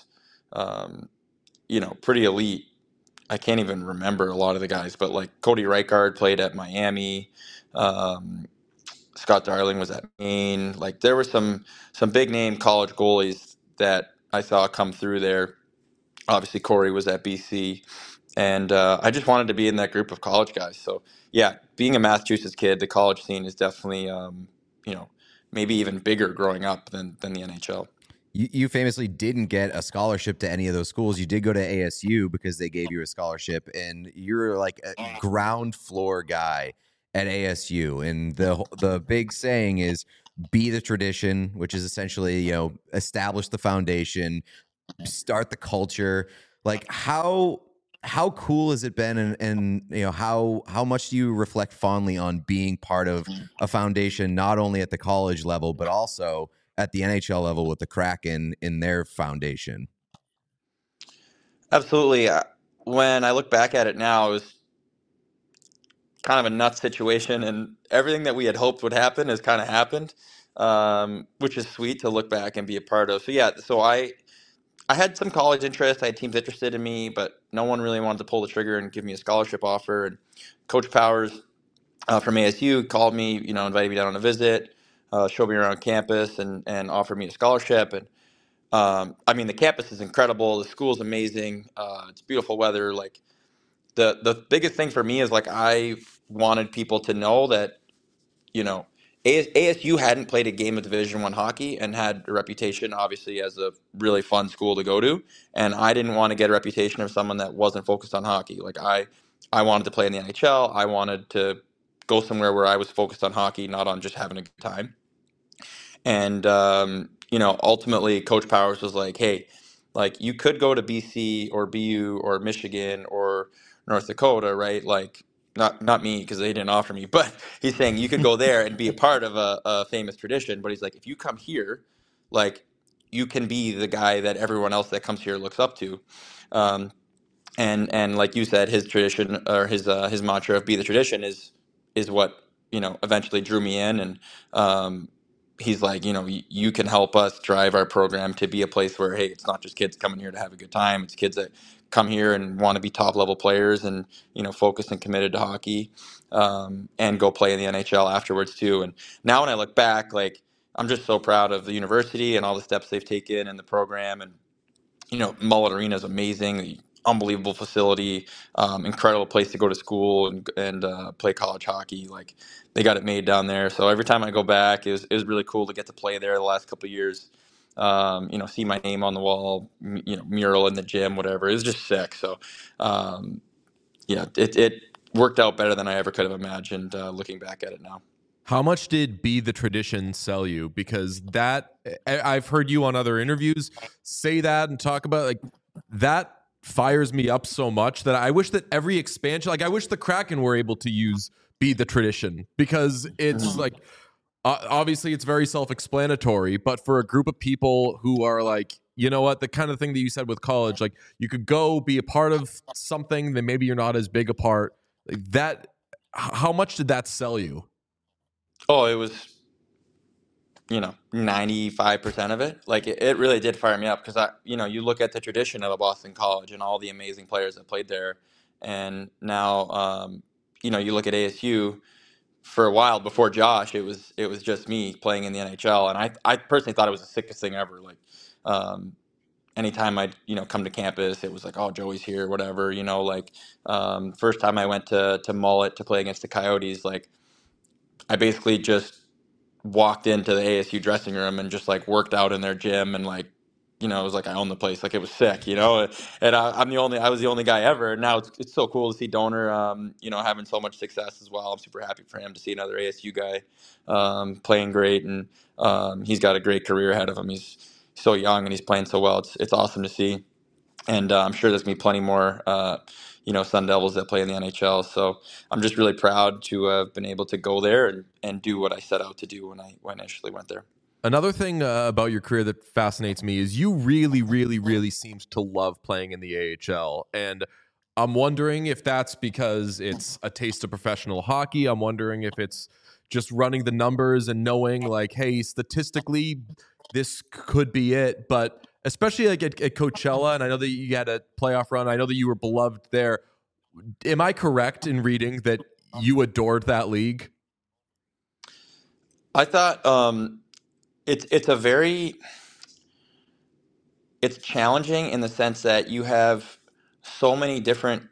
pretty elite. I can't even remember a lot of the guys, but like Cody Reichard played at Miami. Um, Scott Darling was at Maine. Like, there were some big name college goalies that I saw come through there. Obviously, Corey was at BC, and I just wanted to be in that group of college guys. So yeah, being a Massachusetts kid, the college scene is definitely maybe even bigger growing up than the NHL. You famously didn't get a scholarship to any of those schools. You did go to ASU because they gave you a scholarship, and you're like a ground floor guy at ASU. And the big saying is, be the tradition, which is essentially, establish the foundation, start the culture. Like, how cool has it been, and how much do you reflect fondly on being part of a foundation, not only at the college level but also at the NHL level with the Kraken in their foundation? Absolutely. When I look back at it now, it was kind of a nuts situation, and everything that we had hoped would happen has kind of happened, which is sweet to look back and be a part of. So yeah, so I had some college interest. I had teams interested in me, but no one really wanted to pull the trigger and give me a scholarship offer. And Coach Powers from ASU called me, invited me down on a visit, showed me around campus, and offered me a scholarship. And I mean, the campus is incredible. The school's amazing. It's beautiful weather. Like, the biggest thing for me is, like, I wanted people to know that, ASU hadn't played a game of Division I hockey and had a reputation, obviously, as a really fun school to go to. And I didn't want to get a reputation of someone that wasn't focused on hockey. Like, I wanted to play in the NHL. I wanted to go somewhere where I was focused on hockey, not on just having a good time. And ultimately, Coach Powers was like, "Hey, like, you could go to BC or BU or Michigan or North Dakota, right? Like, not me, because they didn't offer me, but he's saying you could go there and be a part of a famous tradition. But he's like, if you come here, like, you can be the guy that everyone else that comes here looks up to." And like you said, his tradition, or his mantra of "be the tradition" is what eventually drew me in. And he's like, you can help us drive our program to be a place where, hey, it's not just kids coming here to have a good time. It's kids that come here and want to be top level players and, focused and committed to hockey, and go play in the NHL afterwards too. And now when I look back, like, I'm just so proud of the university and all the steps they've taken and the program. And Mullet Arena is amazing, unbelievable facility, incredible place to go to school and play college hockey. Like, they got it made down there. So every time I go back, it was really cool to get to play there the last couple of years. See my name on the wall, mural in the gym, whatever. It was just sick. So, it worked out better than I ever could have imagined, looking back at it now. How much did Be the Tradition sell you? Because I've heard you on other interviews say that and talk about, like, that fires me up so much that I wish that every expansion, like, I wish the Kraken were able to use Be the Tradition, because it's like, obviously it's very self-explanatory, but for a group of people who are like, you know what, the kind of thing that you said with college, like, you could go be a part of something that maybe you're not as big a part, like that. How much did that sell you? Oh, it was, 95% of it. Like, it really did fire me up because you look at the tradition of a Boston College and all the amazing players that played there. And now, you look at ASU. For a while before Josh, it was just me playing in the NHL. And I personally thought it was the sickest thing ever. Like, anytime I'd, come to campus, it was like, oh, Joey's here, whatever, like, first time I went to Mullet to play against the Coyotes, like, I basically just walked into the ASU dressing room and just like worked out in their gym, and like, it was like I owned the place. Like, it was sick, and I was the only guy ever. And now it's so cool to see Donor, having so much success as well. I'm super happy for him to see another ASU guy, playing great. And he's got a great career ahead of him. He's so young and he's playing so well. It's awesome to see. And I'm sure there's going to be plenty more, Sun Devils that play in the NHL. So I'm just really proud to have been able to go there and do what I set out to do when I initially went there. Another thing about your career that fascinates me is you really, really, really seems to love playing in the AHL. And I'm wondering if that's because it's a taste of professional hockey. I'm wondering if it's just running the numbers and knowing, like, hey, statistically, this could be it. But especially like at Coachella, and I know that you had a playoff run. I know that you were beloved there. Am I correct in reading that you adored that league? I thought it's challenging in the sense that you have so many different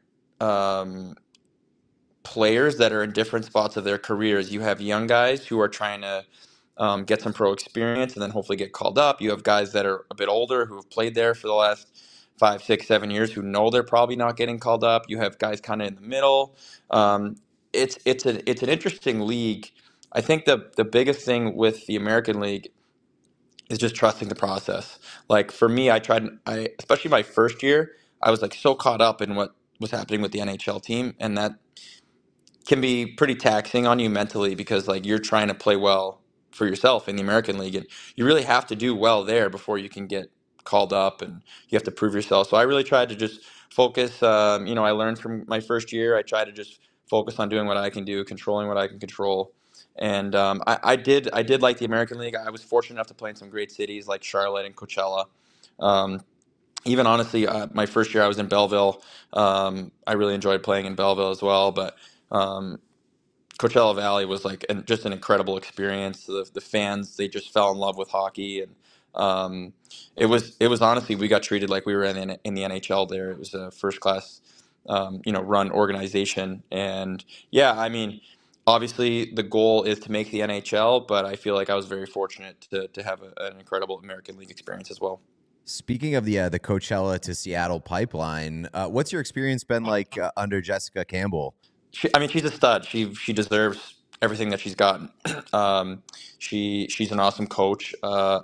players that are in different spots of their careers. You have young guys who are trying to get some pro experience and then hopefully get called up. You have guys that are a bit older who have played there for the last 5, 6, 7 years who know they're probably not getting called up. You have guys kind of in the middle. It's an interesting league. I think the biggest thing with the American League is just trusting the process. Like, for me, especially my first year, I was like so caught up in what was happening with the NHL team, and that can be pretty taxing on you mentally because, like, you're trying to play well for yourself in the American League, and you really have to do well there before you can get called up, and you have to prove yourself. So I really tried to just focus. I learned from my first year. I tried to just focus on doing what I can do, controlling what I can control. And I did like the American League. I was fortunate enough to play in some great cities like Charlotte and Coachella. Um, Even honestly, my first year I was in Belleville. I really enjoyed playing in Belleville as well. But um, Coachella Valley was like just an incredible experience. The fans, they just fell in love with hockey, and it was honestly, we got treated like we were in the NHL there. It was a first class, run organization, and yeah, I mean, obviously the goal is to make the NHL, but I feel like I was very fortunate to have an incredible American League experience as well. Speaking of the Coachella to Seattle pipeline, what's your experience been like under Jessica Campbell? She's a stud. She deserves everything that she's gotten. She's an awesome coach.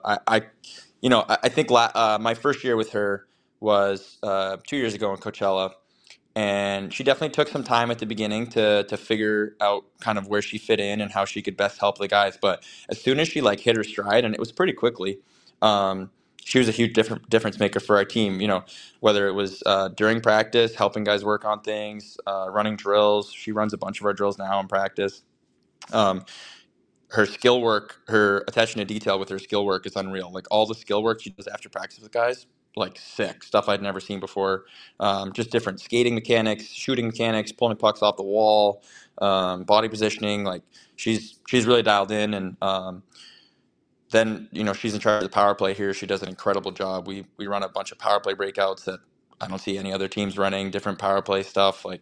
I think my first year with her was 2 years ago in Coachella, and she definitely took some time at the beginning to figure out kind of where she fit in and how she could best help the guys. But as soon as she like hit her stride, and it was pretty quickly, she was a huge difference maker for our team. Whether it was during practice, helping guys work on things, running drills. She runs a bunch of our drills now in practice. Um, her skill work, her attention to detail with her skill work is unreal. Like all the skill work she does after practice with guys, like sick stuff I'd never seen before. Just different skating mechanics, shooting mechanics, pulling pucks off the wall, body positioning. Like she's really dialed in, and then she's in charge of the power play here. She does an incredible job. We run a bunch of power play breakouts that I don't see any other teams running. Different power play stuff like.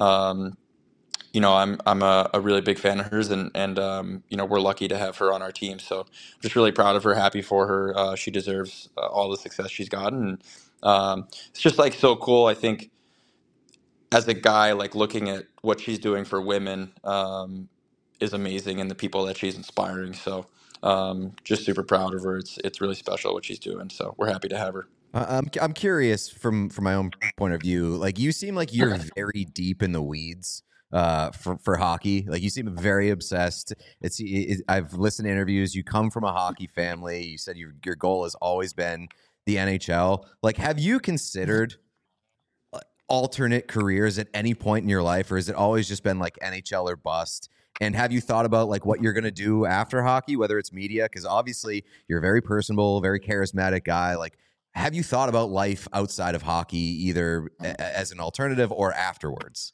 I'm a really big fan of hers, and we're lucky to have her on our team. So I'm just really proud of her, happy for her. She deserves all the success she's gotten. It's just like so cool. I think as a guy, like looking at what she's doing for women is amazing, and the people that she's inspiring. So just super proud of her. It's really special what she's doing. So we're happy to have her. I'm curious from my own point of view. Like you seem like you're very deep in the weeds for hockey. Like you seem very obsessed. I've listened to interviews. You come from a hockey family. You said your goal has always been the NHL. Like, have you considered alternate careers at any point in your life, or has it always just been like NHL or bust? And have you thought about like what you're going to do after hockey, whether it's media? Because obviously you're a very personable, very charismatic guy. Like, have you thought about life outside of hockey, either as an alternative or afterwards?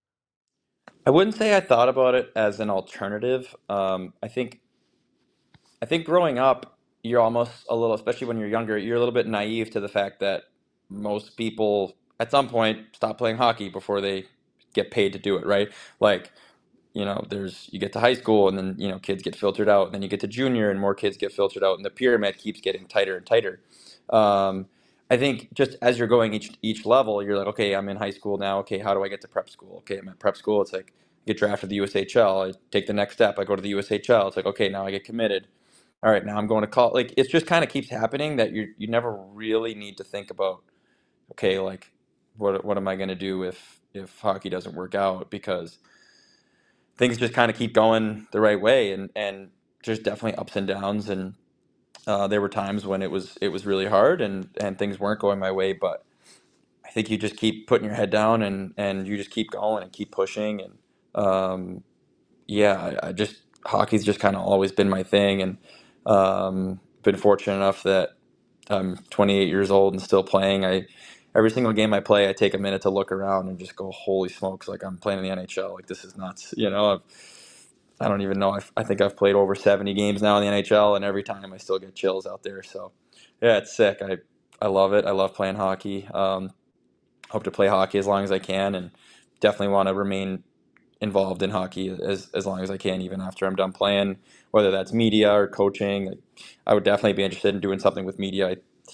I wouldn't say I thought about it as an alternative. I think growing up, you're almost a little, especially when you're younger, you're a little bit naive to the fact that most people at some point stop playing hockey before they get paid to do it, right? Like, you get to high school and then, kids get filtered out, and then you get to junior and more kids get filtered out, and the pyramid keeps getting tighter and tighter. I think just as you're going each level, you're like, okay, I'm in high school now. Okay, how do I get to prep school? Okay, I'm at prep school. It's like I get drafted to the USHL. I take the next step. I go to the USHL. It's like, okay, now I get committed. All right, now I'm going to college. Like it just kind of keeps happening that you never really need to think about, okay, like what am I going to do if hockey doesn't work out, because things just kind of keep going the right way, and there's definitely ups and downs, and there were times when it was really hard and things weren't going my way, but I think you just keep putting your head down and you just keep going and keep pushing, and I just hockey's just kind of always been my thing, and been fortunate enough that I'm 28 years old and still playing. Every single game I play, I take a minute to look around and just go, holy smokes, like I'm playing in the NHL. Like this is nuts. I don't even know. I think I've played over 70 games now in the NHL, and every time I still get chills out there. So yeah, it's sick. I love it. I love playing hockey. Hope to play hockey as long as I can, and definitely want to remain involved in hockey as long as I can, even after I'm done playing, whether that's media or coaching. I would definitely be interested in doing something with media.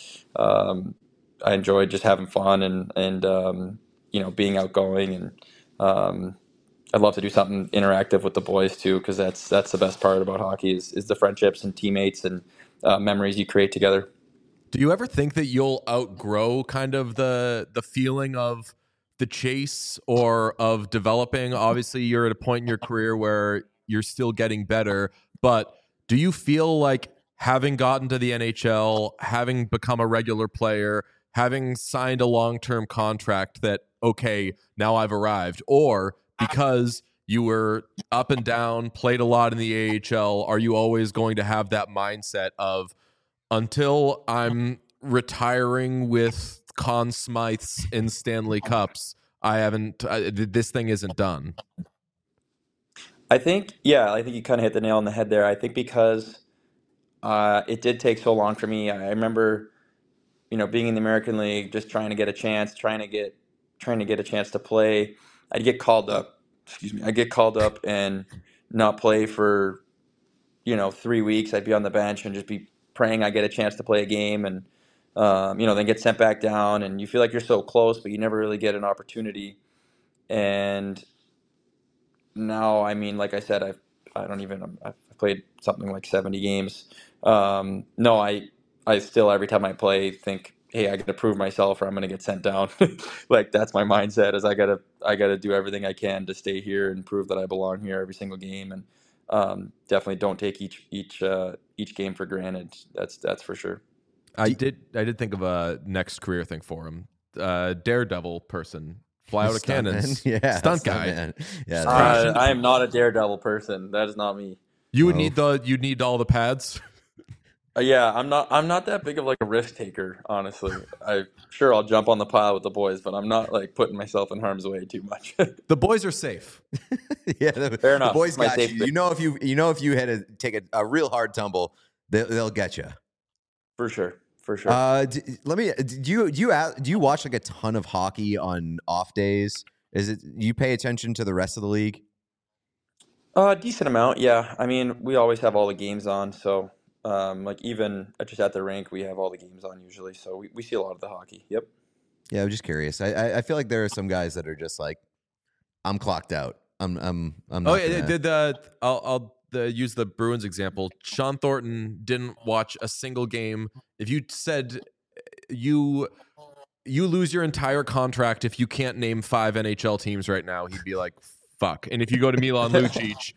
I enjoy just having fun and being outgoing, and I'd love to do something interactive with the boys too, because that's the best part about hockey is the friendships and teammates and memories you create together. Do you ever think that you'll outgrow kind of the feeling of the chase or of developing? Obviously, you're at a point in your career where you're still getting better, but do you feel like having gotten to the NHL, having become a regular player, having signed a long-term contract that, okay, now I've arrived, or because you were up and down, played a lot in the AHL, are you always going to have that mindset of, until I'm retiring with Conn Smythes and Stanley Cups, this thing isn't done? I think you kind of hit the nail on the head there. I think because it did take so long for me. I remember, being in the American League, just trying to get a chance, trying to get a chance to play. I'd get called up. Excuse me. I'd get called up and not play for 3 weeks. I'd be on the bench and just be praying I get a chance to play a game, and then get sent back down, and you feel like you're so close, but you never really get an opportunity. And now, I mean, like I said, I've played something like 70 games. No, I still, every time I play, think, hey, I got to prove myself or I'm going to get sent down. Like that's my mindset, is I gotta do everything I can to stay here and prove that I belong here every single game. And definitely don't take each game for granted. That's for sure. I did think of a next career thing for him. Daredevil person. Fly out of cannons. Yeah, stunt guy. Yeah, I am not a daredevil person. That is not me. You would Oh. you'd need all the pads. Yeah, I'm not that big of like a risk taker, honestly. I'll jump on the pile with the boys, but I'm not like putting myself in harm's way too much. The boys are safe. Yeah, Fair the enough. boys My got safe you. bet. You know if you had to take a real hard tumble, they'll get you. For sure. For sure. Let me. Do you watch like a ton of hockey on off days? Is it you pay attention to the rest of the league? Decent amount, yeah. I mean, we always have all the games on, so like even just at the rink, we have all the games on usually, so we see a lot of the hockey. Yep. Yeah, I'm just curious. I feel like there are some guys that are just like, I'm clocked out. I'm Oh not yeah, gonna. I'll use the Bruins example. Sean Thornton didn't watch a single game. If you said you lose your entire contract if you can't name 5 NHL teams right now, he'd be like, fuck. And if you go to Milan Lucic,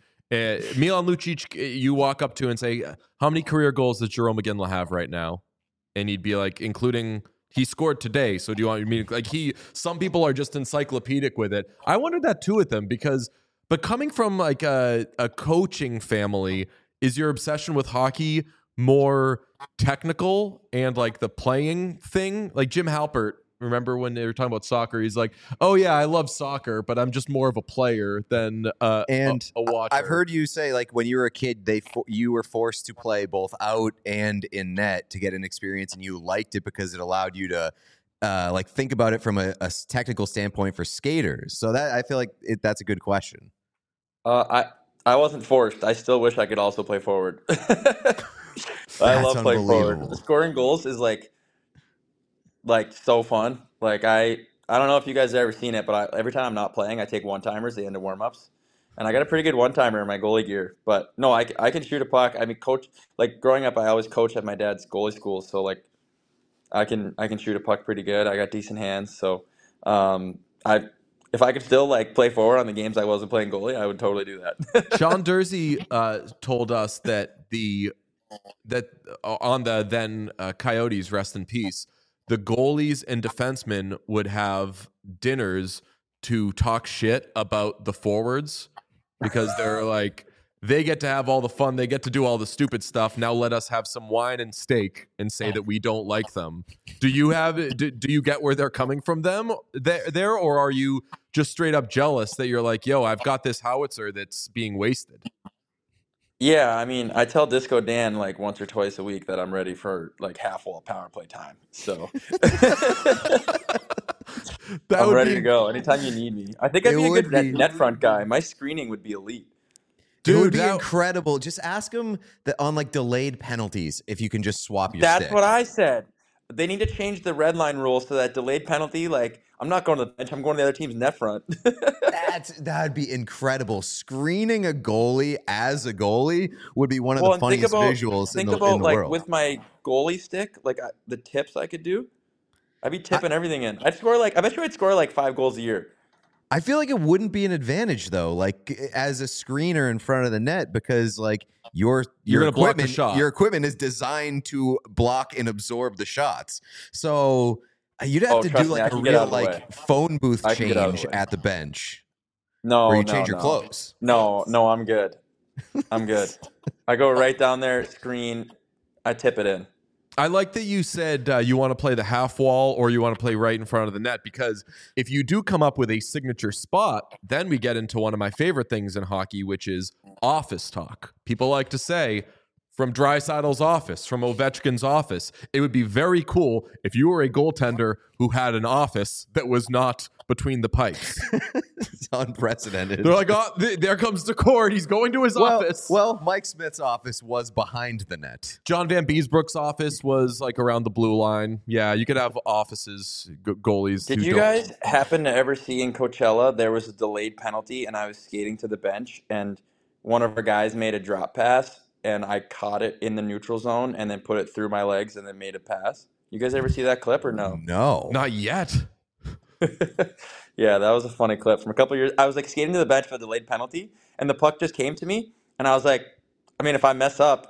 you walk up to and say, how many career goals does Jerome McGinley have right now? And he'd be like, including he scored today. So do you want me like some people are just encyclopedic with it. I wondered that too with them but coming from like a coaching family, is your obsession with hockey more technical and like the playing thing? Like Jim Halpert, remember when they were talking about soccer? He's like, "Oh yeah, I love soccer, but I'm just more of a player than And a watcher." I've heard you say like when you were a kid, you were forced to play both out and in net to get an experience, and you liked it because it allowed you to like think about it from a technical standpoint for skaters. So that I feel like that's a good question. I wasn't forced. I still wish I could also play forward. I That's love playing forward. unbelievable. Scoring goals is like so fun. Like I don't know if you guys have ever seen it, but every time I'm not playing, I take one timers at the end of warm ups, and I got a pretty good one timer in my goalie gear. But no, I can shoot a puck. I mean, coach like growing up, I always coached at my dad's goalie school, so like I can shoot a puck pretty good. I got decent hands, so I if I could still like play forward on the games I wasn't playing goalie, I would totally do that. Sean Dursey told us that on the then Coyotes, rest in peace, the goalies and defensemen would have dinners to talk shit about the forwards because they're like, they get to have all the fun, they get to do all the stupid stuff. Now let us have some wine and steak and say that we don't like them. Do you get where they're coming from there, or are you just straight up jealous that you're like, yo, I've got this howitzer that's being wasted? Yeah, I mean, I tell Disco Dan like once or twice a week that I'm ready for like half wall power play time. So That I'm would ready be to go anytime you need me. I think I'd It be a would good be. net front guy. My screening would be elite. It would Dude, be that- incredible. Just ask them that on like delayed penalties if you can just swap your That's stick. what I said. They need to change the red line rule so that delayed penalty, like I'm not going to the bench, I'm going to the other team's net front. That'd be incredible. Screening a goalie as a goalie would be one of the and think funniest about visuals in think the about like world. with my goalie stick, like the tips I could do. I'd be tipping everything in. I bet you I'd score like 5 goals a year. I feel like it wouldn't be an advantage though, like as a screener in front of the net, because like your gonna block the equipment, shot. your equipment is designed to block and absorb the shots. So you'd have to do trust me, I like a can get out real of the way. like phone booth I can get out of change the way. at the bench No, where you no, change your no. clothes. No, I'm good. I'm good. I go right down there, screen, I tip it in. I like that you said you want to play the half wall or you want to play right in front of the net, because if you do come up with a signature spot, then we get into one of my favorite things in hockey, which is office talk. People like to say, from Dreisaitl's office, from Ovechkin's office, it would be very cool if you were a goaltender who had an office that was not between the pipes. It's unprecedented. They're like, oh, there comes the court. He's going to his office. Well, Mike Smith's office was behind the net. John Van Beesbrook's office was like around the blue line. Yeah, you could have offices, goalies. Did who you don't- guys happen to ever see in Coachella there was a delayed penalty and I was skating to the bench and one of our guys made a drop pass and I caught it in the neutral zone and then put it through my legs and then made a pass? You guys ever see that clip or no? No. Not yet. Yeah, that was a funny clip from a couple years. I was like skating to the bench for the delayed penalty and the puck just came to me and I was like, I mean, if I mess up,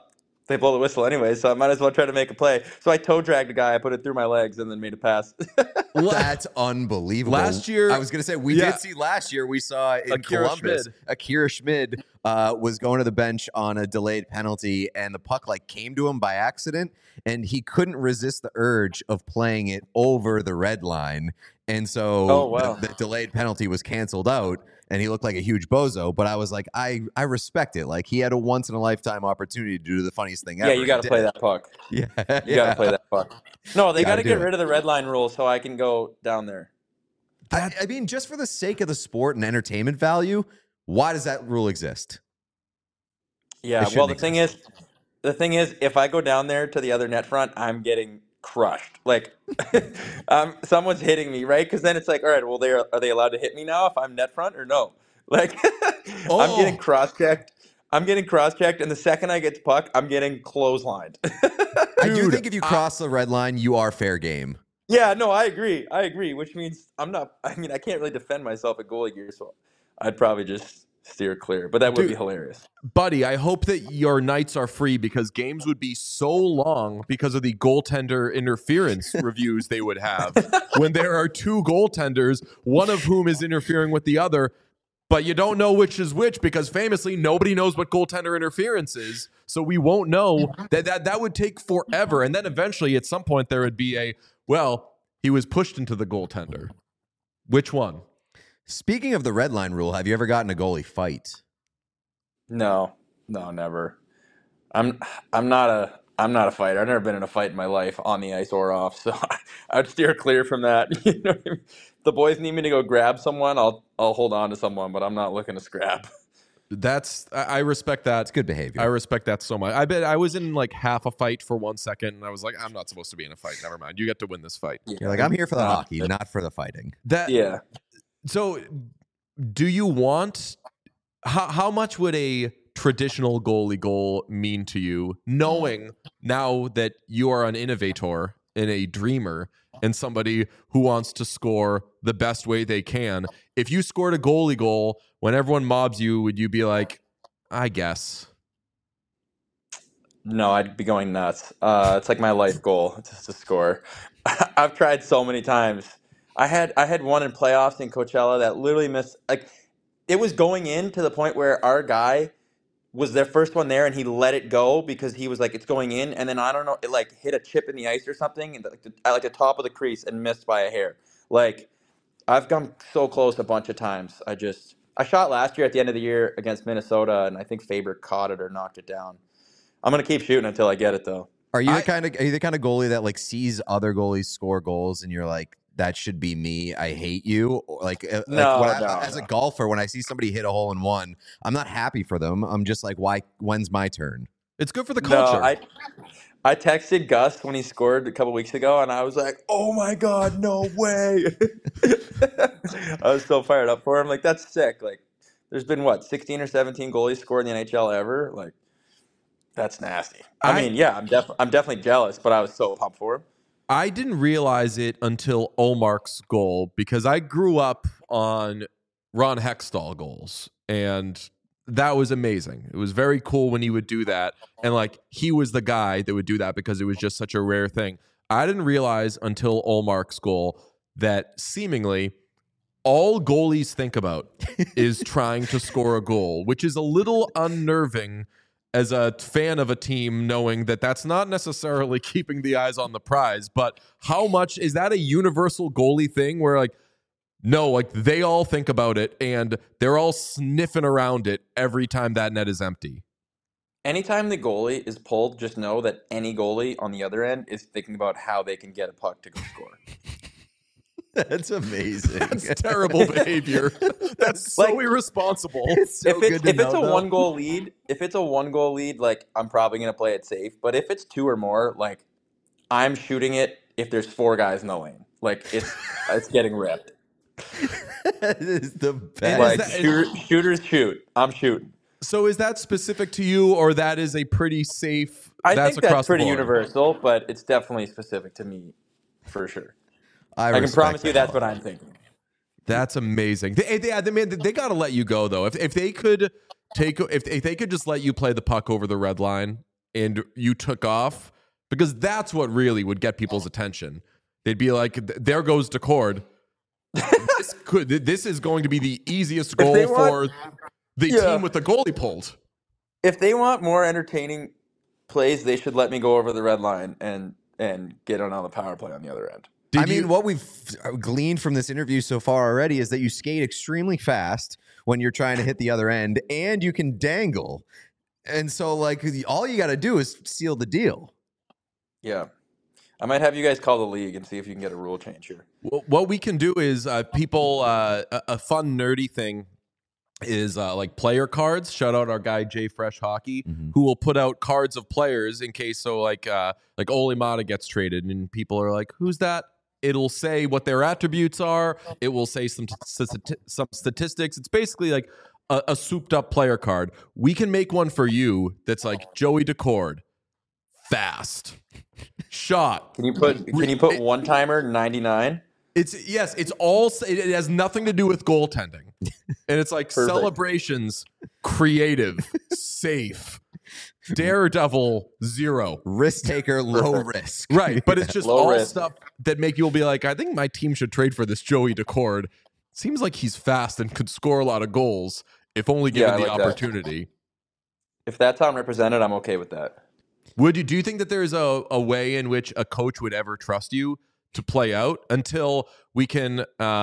they blow the whistle anyway, so I might as well try to make a play. So I toe dragged a guy, I put it through my legs, and then made a pass. That's unbelievable. Last year, I was going to say, we did see last year, we saw in Akira Columbus, Schmid. Akira Schmid was going to the bench on a delayed penalty, and the puck like came to him by accident, and he couldn't resist the urge of playing it over the red line. And so the delayed penalty was canceled out, and he looked like a huge bozo. But I was like, I respect it. Like, he had a once-in-a-lifetime opportunity to do the funniest thing ever. Yeah, you got to play that puck. Yeah. You got to play that puck. No, they got to do get it. rid of the red line rule so I can go down there. I mean, just for the sake of the sport and entertainment value, why does that rule exist? Yeah, It well, the shouldn't thing is, if I go down there to the other net front, I'm getting crushed. Like, someone's hitting me, right? Because then it's like, all right, well, are they allowed to hit me now if I'm net front or no? Like, I'm getting cross-checked. And the second I get to puck, I'm getting clotheslined. I do think if you cross the red line, you are fair game. Yeah, no, I agree. Which means I can't really defend myself at goalie gear, so I'd probably just steer clear. But that would be hilarious. Buddy, I hope that your nights are free because games would be so long because of the goaltender interference reviews they would have when there are two goaltenders, one of whom is interfering with the other, but you don't know which is which because famously nobody knows what goaltender interference is, so we won't know. That would take forever, and then eventually at some point there would be he was pushed into the goaltender. Which one? Speaking of the red line rule, have you ever gotten a goalie fight? No, never. I'm not a fighter. I've never been in a fight in my life on the ice or off, so I'd steer clear from that. You know what I mean? If the boys need me to go grab someone, I'll hold on to someone, but I'm not looking to scrap. I respect that. It's good behavior. I respect that so much. I bet I was in like half a fight for 1 second, and I was like, I'm not supposed to be in a fight. Never mind. You get to win this fight. Yeah. You're like, I'm here for the hockey, not for the fighting. Yeah. So, do you want? How much would a traditional goalie goal mean to you, knowing now that you are an innovator and a dreamer and somebody who wants to score the best way they can? If you scored a goalie goal when everyone mobs you, would you be like, I guess? No, I'd be going nuts. It's like my life goal just to score. I've tried so many times. I had one in playoffs in Coachella that literally missed. Like, it was going in to the point where our guy was their first one there, and he let it go because he was like, it's going in, and then I don't know, it like hit a chip in the ice or something, and at the top of the crease and missed by a hair. Like, I've come so close a bunch of times. I shot last year at the end of the year against Minnesota, and I think Faber caught it or knocked it down. I'm gonna keep shooting until I get it, though. Are you the kind of goalie that like sees other goalies score goals and you're like, that should be me, I hate you? Or like, as a golfer, when I see somebody hit a hole in one, I'm not happy for them. I'm just like, when's my turn? It's good for the culture. No, I texted Gus when he scored a couple weeks ago, and I was like, oh my God, no way. I was so fired up for him. Like, that's sick. Like, there's been 16 or 17 goalies scored in the NHL ever? Like, that's nasty. I mean, yeah, I'm definitely jealous, but I was so pumped for him. I didn't realize it until Olmark's goal because I grew up on Ron Hextall goals, and that was amazing. It was very cool when he would do that, and like he was the guy that would do that because it was just such a rare thing. I didn't realize until Olmark's goal that seemingly all goalies think about is trying to score a goal, which is a little unnerving as a fan of a team, knowing that that's not necessarily keeping the eyes on the prize. But how much is that a universal goalie thing where like, no, like they all think about it and they're all sniffing around it every time that net is empty? Anytime the goalie is pulled, just know that any goalie on the other end is thinking about how they can get a puck to go score. That's amazing. That's terrible behavior. That's so irresponsible. It's so if it's a 1-goal lead, like I'm probably gonna play it safe. But if it's 2 or more, like I'm shooting it if there's 4 guys in the lane. Like it's getting ripped. That is the best. Like shooters shoot. I'm shooting. So is that specific to you, or that is a pretty safe? I think that's pretty the board? universal, but it's definitely specific to me, for sure. I can promise you that's what I'm thinking. That's amazing. They got to let you go though. If they could just let you play the puck over the red line and you took off, because that's what really would get people's attention. They'd be like, there goes Decord. This is going to be the easiest goal for the team with the goalie pulled. If they want more entertaining plays, they should let me go over the red line and get on the power play on the other end. I mean, what we've gleaned from this interview so far already is that you skate extremely fast when you're trying to hit the other end, and you can dangle. And so, like, all you got to do is seal the deal. Yeah. I might have you guys call the league and see if you can get a rule change here. What we can do is a fun nerdy thing is like player cards. Shout out our guy Jay Fresh Hockey, who will put out cards of players in case. So like Ole Mata gets traded and people are like, who's that? It'll say what their attributes are. It will say some statistics. It's basically like a souped up player card. We can make one for you that's like Joey Decord, fast, shot. Can you put one timer 99? It has nothing to do with goaltending. And it's like Perfect. celebrations, creative, safe, daredevil, 0. Risk taker, low risk. Right. But it's just Low all risk. stuff that make you be like, I think my team should trade for this Joey Decord. Seems like he's fast and could score a lot of goals if only given I the like that. opportunity. If that's how I'm represented, I'm okay with that. Do you think that there's a way in which a coach would ever trust you to play out until we can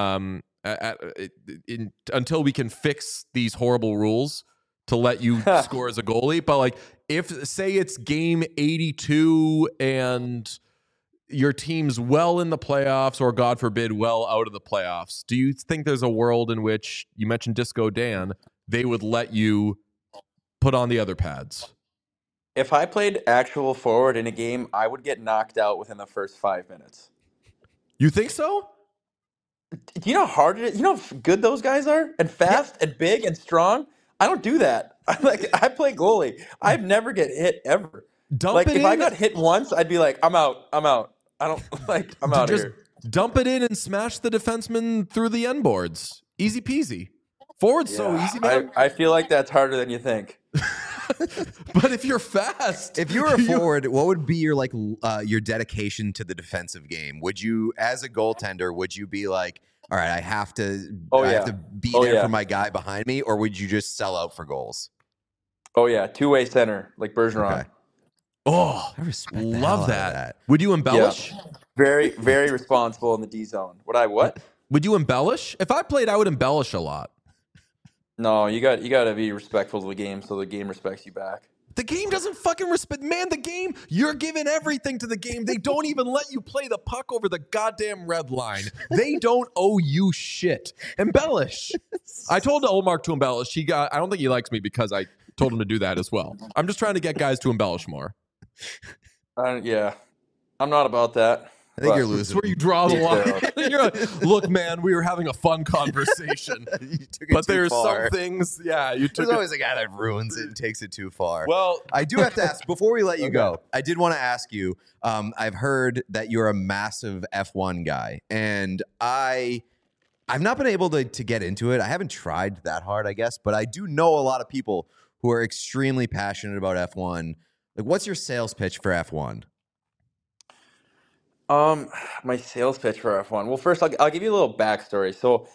until we can fix these horrible rules to let you score as a goalie? But like, if say it's game 82 and your team's well in the playoffs, or God forbid, well out of the playoffs, do you think there's a world in which, you mentioned Disco Dan, they would let you put on the other pads? If I played actual forward in a game, I would get knocked out within the first 5 minutes. You think so? Do you know how hard it is? You know how good those guys are? And fast and big and strong? I don't do that. I play goalie. I've never get hit ever. Dump it if in. I got hit once, I'd be like, I'm out. I don't I'm out of Just here. dump it in and smash the defenseman through the end boards. Easy peasy. Forward's so easy, man. I feel like that's harder than you think. But if you're fast, If you were a forward, what would be your your dedication to the defensive game? Would you, as a goaltender, would you be like, all right, I have to be there for my guy behind me, or would you just sell out for goals? Oh yeah, two-way center like Bergeron. Okay. oh, I respect the hell love out of that. Would you embellish? Very, very responsible in the D zone. What? Would you embellish? If I played, I would embellish a lot. No, you got to be respectful to the game so the game respects you back. The game doesn't fucking respect, man. The game, you're giving everything to the game. They don't even let you play the puck over the goddamn red line. They don't owe you shit. Embellish. I told Olmark to embellish. I don't think he likes me because I told him to do that as well. I'm just trying to get guys to embellish more. Yeah, I'm not about that. I think you're That's losing. where you draw the Yeah. line. You're like, look, man, we were having a fun conversation, You took it but too there's far. some things. Yeah, you took There's it. always a guy that ruins it and takes it too far. Well, I do have to ask, before we let you go, I did want to ask you, I've heard that you're a massive F1 guy, and I've not been able to get into it. I haven't tried that hard, I guess, but I do know a lot of people who are extremely passionate about F1. Like, what's your sales pitch for F1? My sales pitch for F1. Well, first I'll give you a little backstory. So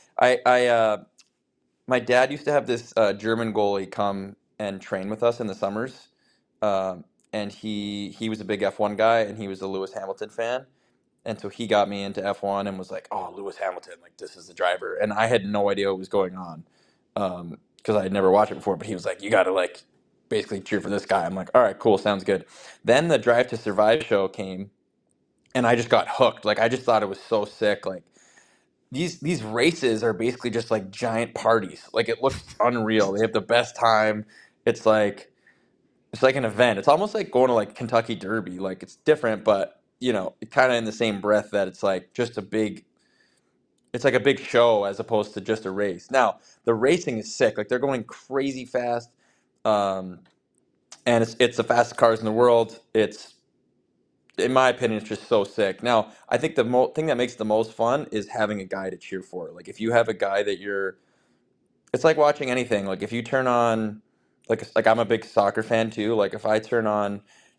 my dad used to have this German goalie come and train with us in the summers, and he was a big F1 guy, and he was a Lewis Hamilton fan, and so he got me into F1 and was like, "Oh, Lewis Hamilton, like this is the driver," and I had no idea what was going on, because I had never watched it before. But he was like, "You got to like basically cheer for this guy." I'm like, "All right, cool, sounds good." Then the Drive to Survive show came, and I just got hooked. Like I just thought it was so sick. Like these races are basically just like giant parties. Like it looks unreal. They have the best time. It's like an event. It's almost like going to like Kentucky Derby. Like it's different, but kind of in the same breath that it's like just it's like a big show as opposed to just a race. Now, the racing is sick. Like they're going crazy fast. And it's the fastest cars in the world. It's, in my opinion, it's just so sick. Now, I think the thing that makes it the most fun is having a guy to cheer for. Like if you have a guy that it's like watching anything. Like if you turn on, like I'm a big soccer fan too. Like if I turn on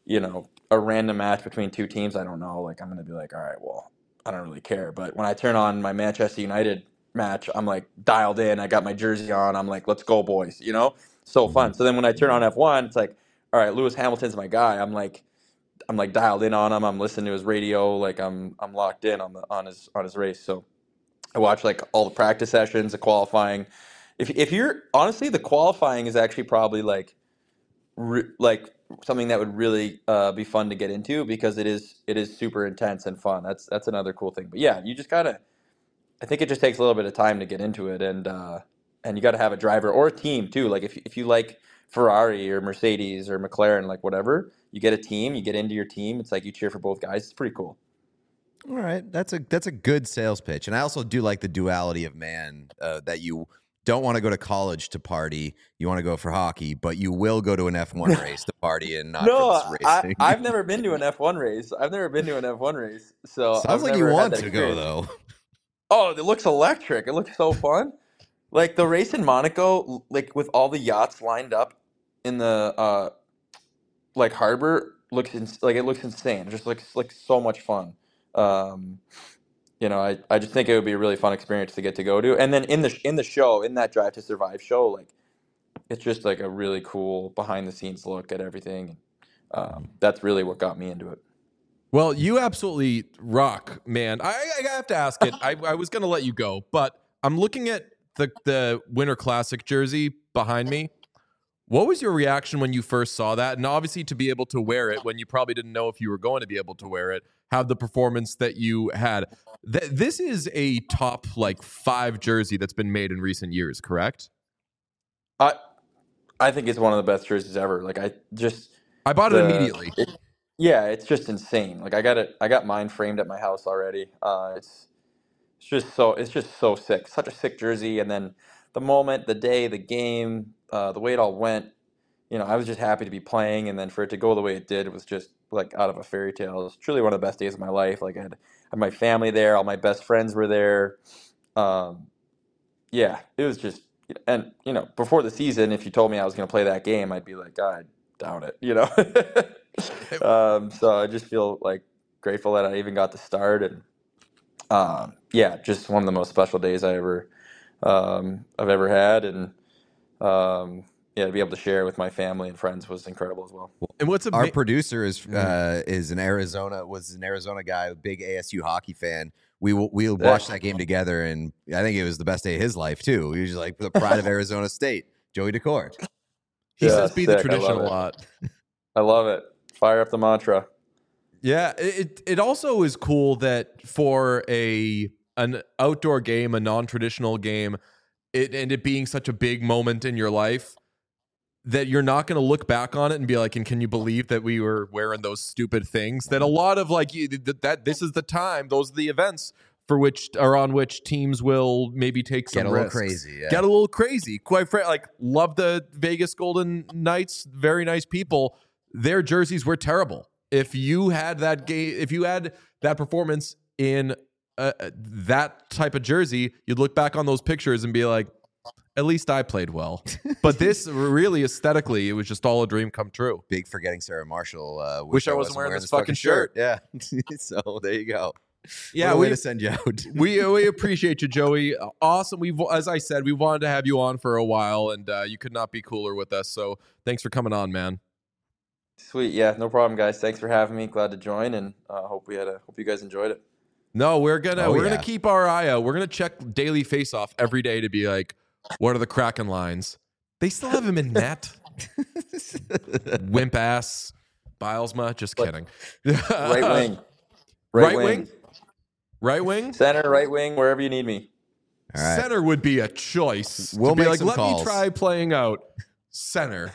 a random match between two teams, I don't know. Like, I'm going to be like, all right, well, I don't really care. But when I turn on my Manchester United match, I'm like dialed in. I got my jersey on. I'm like, let's go, boys. So fun. So then when I turn on F1, it's like, all right, Lewis Hamilton's my guy. I'm like dialed in on him. I'm listening to his radio. Like I'm locked in on his race. So I watch like all the practice sessions, the qualifying. If you're honestly, the qualifying is actually probably like like something that would really be fun to get into because it is super intense and fun. That's another cool thing. But yeah, you just gotta. I think it just takes a little bit of time to get into it, and you got to have a driver or a team too. Like if you like Ferrari or Mercedes or McLaren, like whatever, you get a team, you get into your team. It's like you cheer for both guys. It's pretty cool. All right, that's a good sales pitch, and I also do like the duality of man that you don't want to go to college to party, you want to go for hockey, but you will go to an F1 race to party and not No, for this racing. I've never been to an F1 race. I've never been to an F1 race, so Sounds I've like you never had want that to go experience. though. Oh, it looks electric. It looks so fun. Like the race in Monaco, like with all the yachts lined up in the like harbor, it looks insane. It just looks like so much fun. Um, I just think it would be a really fun experience to get to go to. And then in the show, in that Drive to Survive show, like it's just like a really cool behind the scenes look at everything. That's really what got me into it. Well, you absolutely rock, man. I have to ask it. I was going to let you go, but I'm looking at the Winter Classic jersey behind me. What was your reaction when you first saw that? And obviously to be able to wear it when you probably didn't know if you were going to be able to wear it, have the performance that you had. This is a top like 5 jersey that's been made in recent years, correct? I think it's one of the best jerseys ever. Like I bought it immediately. Yeah, it's just insane. Like I got mine framed at my house already. It's just so sick. Such a sick jersey. And then the moment, the day, the game, the way it all went, I was just happy to be playing. And then for it to go the way it did, it was just like out of a fairy tale. It was truly one of the best days of my life. Like I had my family there, all my best friends were there. Yeah, it was just, and before the season, if you told me I was going to play that game, I'd be like, I doubt it. So I just feel like grateful that I even got to start, and yeah, just one of the most special days I've ever had, and yeah, to be able to share with my family and friends was incredible as well. And what's Our producer was an Arizona guy, a big ASU hockey fan. We watched that game together, and I think it was the best day of his life too. He was like the pride of Arizona State, Joey Decord. He says be the sick. tradition a lot. I love it. Fire up the mantra. Yeah, it also is cool that for an outdoor game, a non-traditional game, it being such a big moment in your life, that you're not going to look back on it and be like, and can you believe that we were wearing those stupid things? That a lot of like that this is the time, those are the events on which teams will maybe take some risks. Get a little crazy. Quite frankly, like love the Vegas Golden Knights, very nice people. Their jerseys were terrible. If you had that game, if you had that performance in that type of jersey, you'd look back on those pictures and be like, at least I played well. But this really aesthetically, it was just all a dream come true. Big forgetting Sarah Marshall. Wish I wasn't wearing this fucking shirt. Yeah. So there you go. Yeah, way to send you out. we appreciate you, Joey. Awesome. As I said, we wanted to have you on for a while, and you could not be cooler with us. So thanks for coming on, man. Sweet. Yeah, no problem, guys. Thanks for having me. Glad to join, and hope you guys enjoyed it. No, we're gonna keep our eye out. We're gonna check Daily Faceoff every day to be like, what are the Kraken lines? They still have him in net. Wimp ass Bilesma. Just kidding. Right wing. Right wing? Center, right wing, wherever you need me. All right. Center would be a choice. We'll be make like, some let calls. me try playing out center.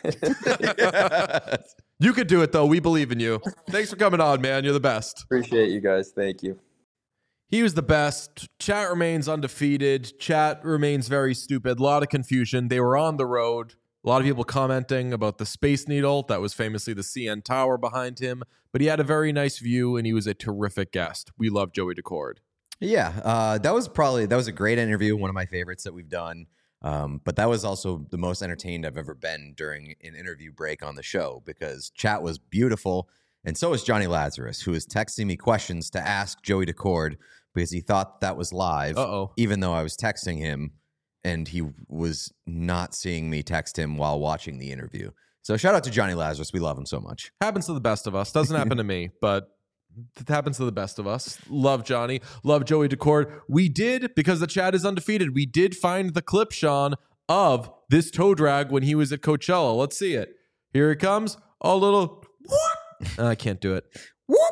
You could do it, though. We believe in you. Thanks for coming on, man. You're the best. Appreciate you guys. Thank you. He was the best. Chat remains undefeated. Chat remains very stupid. A lot of confusion. They were on the road. A lot of people commenting about the Space Needle. That was famously the CN Tower behind him. But he had a very nice view, and he was a terrific guest. We love Joey Decord. Yeah, that was a great interview. One of my favorites that we've done. But that was also the most entertained I've ever been during an interview break on the show because chat was beautiful. And so is Johnny Lazarus, who is texting me questions to ask Joey Decord because he thought that was live, even though I was texting him and he was not seeing me text him while watching the interview. So shout out to Johnny Lazarus. We love him so much. Happens to the best of us. Doesn't happen to me, but it happens to the best of us. Love Johnny. Love Joey Decord. We did, because the chat is undefeated, we did find the clip, Sean, of this toe drag when he was at Coachella. Let's see it. Here it comes. A little whoop. I can't do it. Whoop.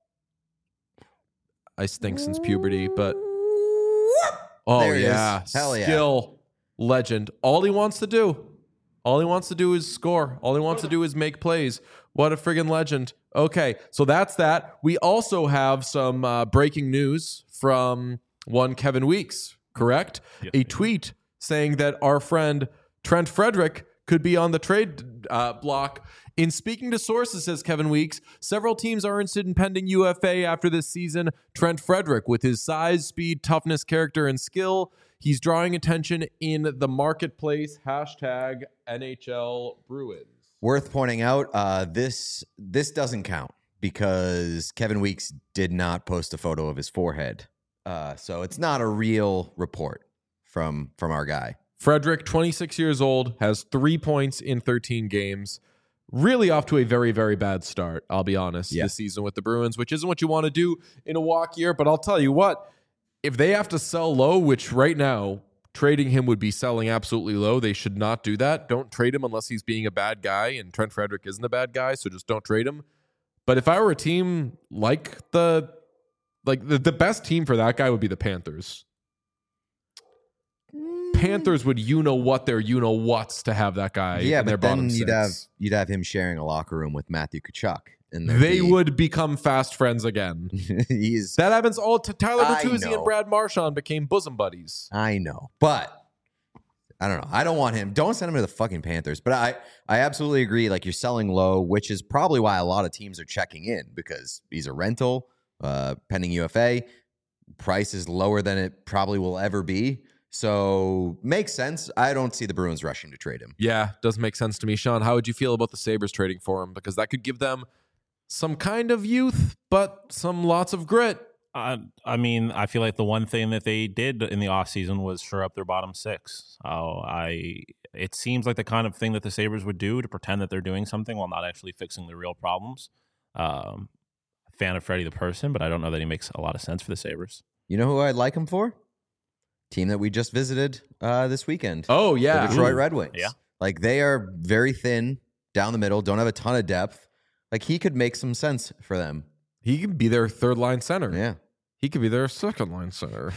I stink since puberty, but oh There it yeah. is. Hell yeah. Skill legend. All he wants to do is score. All he wants to do is make plays. What a friggin' legend. Okay, so that's that. We also have some breaking news from one Kevin Weeks, correct? Yes, A tweet saying that our friend Trent Frederick could be on the trade block. In speaking to sources, says Kevin Weeks, several teams are interested in pending UFA after this season. Trent Frederick, with his size, speed, toughness, character, and skill, he's drawing attention in the marketplace. Hashtag NHL Bruins. Worth pointing out, this doesn't count because Kevin Weeks did not post a photo of his forehead. So it's not a real report from our guy. Frederick, 26 years old, has 3 points in 13 games. Really off to a very, very bad start, I'll be honest, this season with the Bruins, which isn't what you want to do in a walk year. But I'll tell you what, if they have to sell low, which right now, trading him would be selling absolutely low. They should not do that. Don't trade him unless he's being a bad guy, and Trent Frederick isn't a bad guy, so just don't trade him. But if I were a team like the best team for that guy would be the Panthers. Panthers would what their what's to have that guy in their bottom six. You'd have him sharing a locker room with Matthew Tkachuk. And they would become fast friends again. That happens all to Tyler Bertuzzi and Brad Marchand became bosom buddies. I know, but I don't know. I don't want him. Don't send him to the fucking Panthers. But I absolutely agree. Like, you're selling low, which is probably why a lot of teams are checking in because he's a rental, pending UFA. Price is lower than it probably will ever be. So makes sense. I don't see the Bruins rushing to trade him. Yeah, does make sense to me. Sean, how would you feel about the Sabres trading for him? Because that could give them some kind of youth, but some lots of grit. I mean, I feel like the one thing that they did in the offseason was shore up their bottom six. It seems like the kind of thing that the Sabres would do to pretend that they're doing something while not actually fixing the real problems. Fan of Freddie the person, but I don't know that he makes a lot of sense for the Sabres. You know who I'd like him for? Team that we just visited this weekend. Oh, yeah. The Detroit Red Wings. Yeah. Like, they are very thin down the middle, don't have a ton of depth. Like, he could make some sense for them. He could be their third line center. Yeah. He could be their second line center.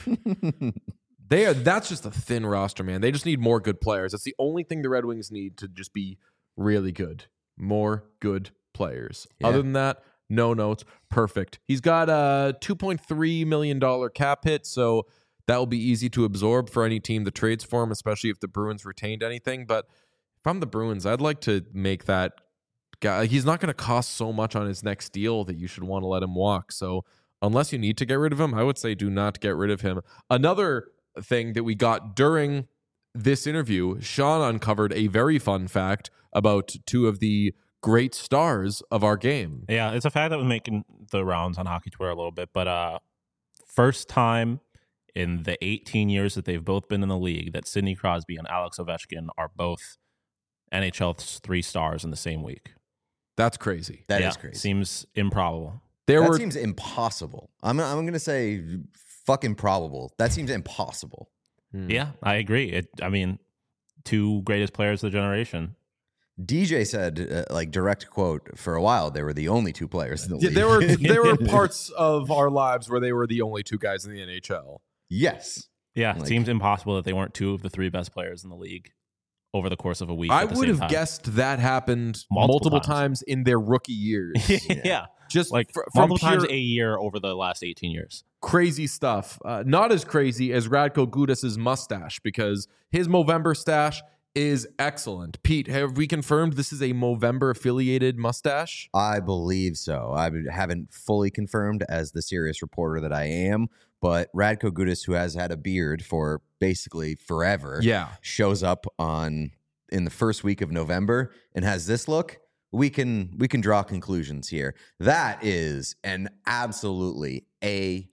That's just a thin roster, man. They just need more good players. That's the only thing the Red Wings need to just be really good. More good players. Yeah. Other than that, no notes. Perfect. He's got a $2.3 million cap hit, so that will be easy to absorb for any team that trades for him, especially if the Bruins retained anything. But if I'm the Bruins, I'd like to make that guy. He's not going to cost so much on his next deal that you should want to let him walk. So unless you need to get rid of him, I would say do not get rid of him. Another thing that we got during this interview, Sean uncovered a very fun fact about two of the great stars of our game. Yeah, it's a fact that was making the rounds on Hockey Twitter a little bit, but first time in the 18 years that they've both been in the league that Sidney Crosby and Alex Ovechkin are both NHL 3 stars in the same week. That's crazy. That is crazy. Seems improbable. That seems impossible. I'm going to say fucking probable. That seems impossible. Yeah, I agree. I mean, two greatest players of the generation. DJ said, direct quote, for a while, they were the only two players in the league. There were parts of our lives where they were the only two guys in the NHL. Yes. Yeah, it seems impossible that they weren't two of the 3 best players in the league over the course of a week. I would have guessed that happened multiple times in their rookie years. Yeah. Just like multiple times a year over the last 18 years. Crazy stuff. Not as crazy as Radko Gudas's mustache, because his Movember stash is excellent. Pete, have we confirmed this is a Movember affiliated mustache? I believe so. I haven't fully confirmed as the serious reporter that I am, but Radko Gudas, who has had a beard for basically forever, shows up in the first week of November and has this look. We can draw conclusions here. That is an absolutely A+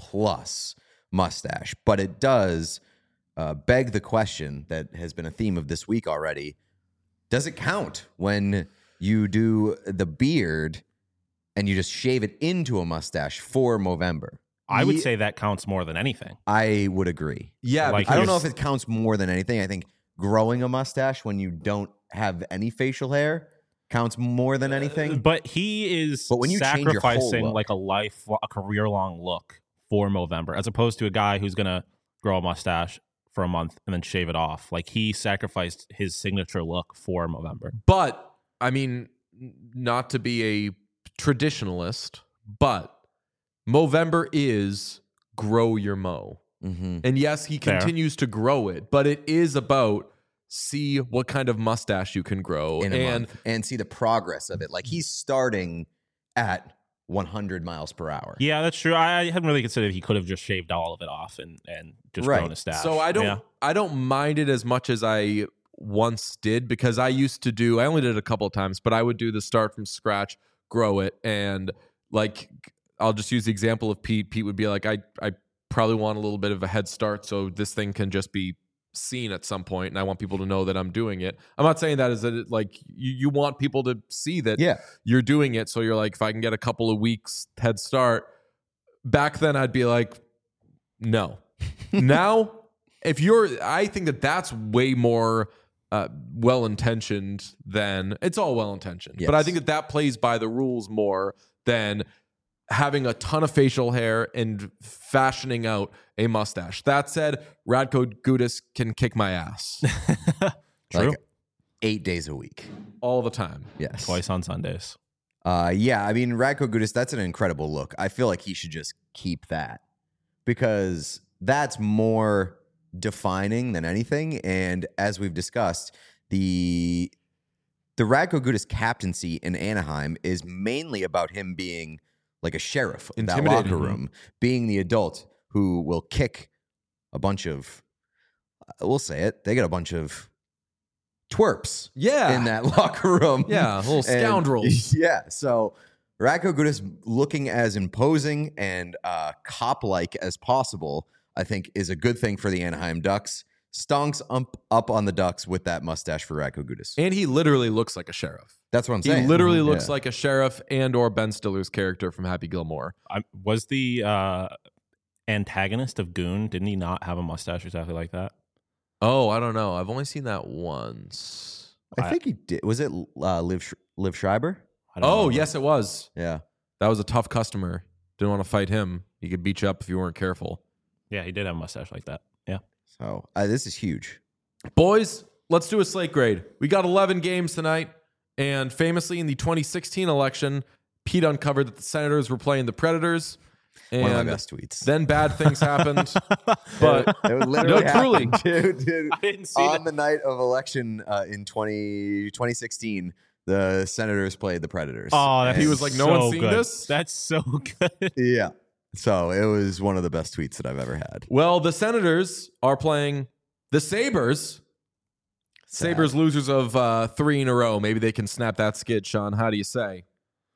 mustache, but it does beg the question that has been a theme of this week already. Does it count when you do the beard and you just shave it into a mustache for Movember? I would say that counts more than anything. I would agree. Yeah, Like, I don't know if it counts more than anything. I think growing a mustache when you don't have any facial hair counts more than anything. But he is But when you change your whole sacrificing look. like a career-long look for Movember, as opposed to a guy who's going to grow a mustache for a month and then shave it off. Like, he sacrificed his signature look for Movember. But, I mean, not to be a traditionalist, but Movember is grow your mo. Mm-hmm. And yes, he Fair. continues to grow it, but it is about see what kind of mustache you can grow In a month, and see the progress of it. Like, he's starting at 100 miles per hour. Yeah, that's true. I hadn't really considered he could have just shaved all of it off and just Right. grown a stash. So I Yeah. don't mind it as much as I once did, because I only did it a couple of times, but I would do the start from scratch, grow it, and like I'll just use the example of Pete. Pete would be like, I probably want a little bit of a head start so this thing can just be seen at some point, and I want people to know that I'm doing it. I'm not saying that as that like you want people to see that you're doing it, so you're like, if I can get a couple of weeks head start. Back then I'd be like, no. Now I think that that's way more well-intentioned than it's all well-intentioned. Yes. But I think that plays by the rules more than having a ton of facial hair and fashioning out a mustache. That said, Radko Gudas can kick my ass True. Like 8 days a week. all the time. Yes. Twice on Sundays. Yeah, I mean, Radko Gudas, that's an incredible look. I feel like he should just keep that because that's more defining than anything. And as we've discussed, the Radko Gudas captaincy in Anaheim is mainly about him being like a sheriff of that Intimidating. locker room, being the adult who will kick a bunch of, we'll say it, they get a bunch of twerps Yeah. in that locker room. Yeah, little And- scoundrels. yeah, so Radko Gudas looking as imposing and cop-like as possible, I think, is a good thing for the Anaheim Ducks. Stonks up on the Ducks with that mustache for Radko Gudas. And he literally looks like a sheriff. That's what I'm He saying. literally looks Yeah. like a sheriff and or Ben Stiller's character from Happy Gilmore. Was the antagonist of Goon, didn't he not have a mustache exactly like that? Oh, I don't know. I've only seen that once. I think he did. Was it Liv Schreiber? I don't Oh, remember. yes, it was. Yeah. That was a tough customer. Didn't want to fight him. He could beat you up if you weren't careful. Yeah, he did have a mustache like that. Yeah. So this is huge. Boys, let's do a slate grade. We got 11 games tonight. And famously, in the 2016 election, Pete uncovered that the Senators were playing the Predators. And One of my best tweets. then bad things happened. But it literally No, truly. happened, dude. I didn't see On the night of election in 2016, the Senators played the Predators. Oh, that's He was like, no so one's seen good. this? That's so good. Yeah. So it was one of the best tweets that I've ever had. well, the Senators are playing the Sabres. Sad. Sabres losers of 3 in a row. Maybe they can snap that skid, Sean. How do you say?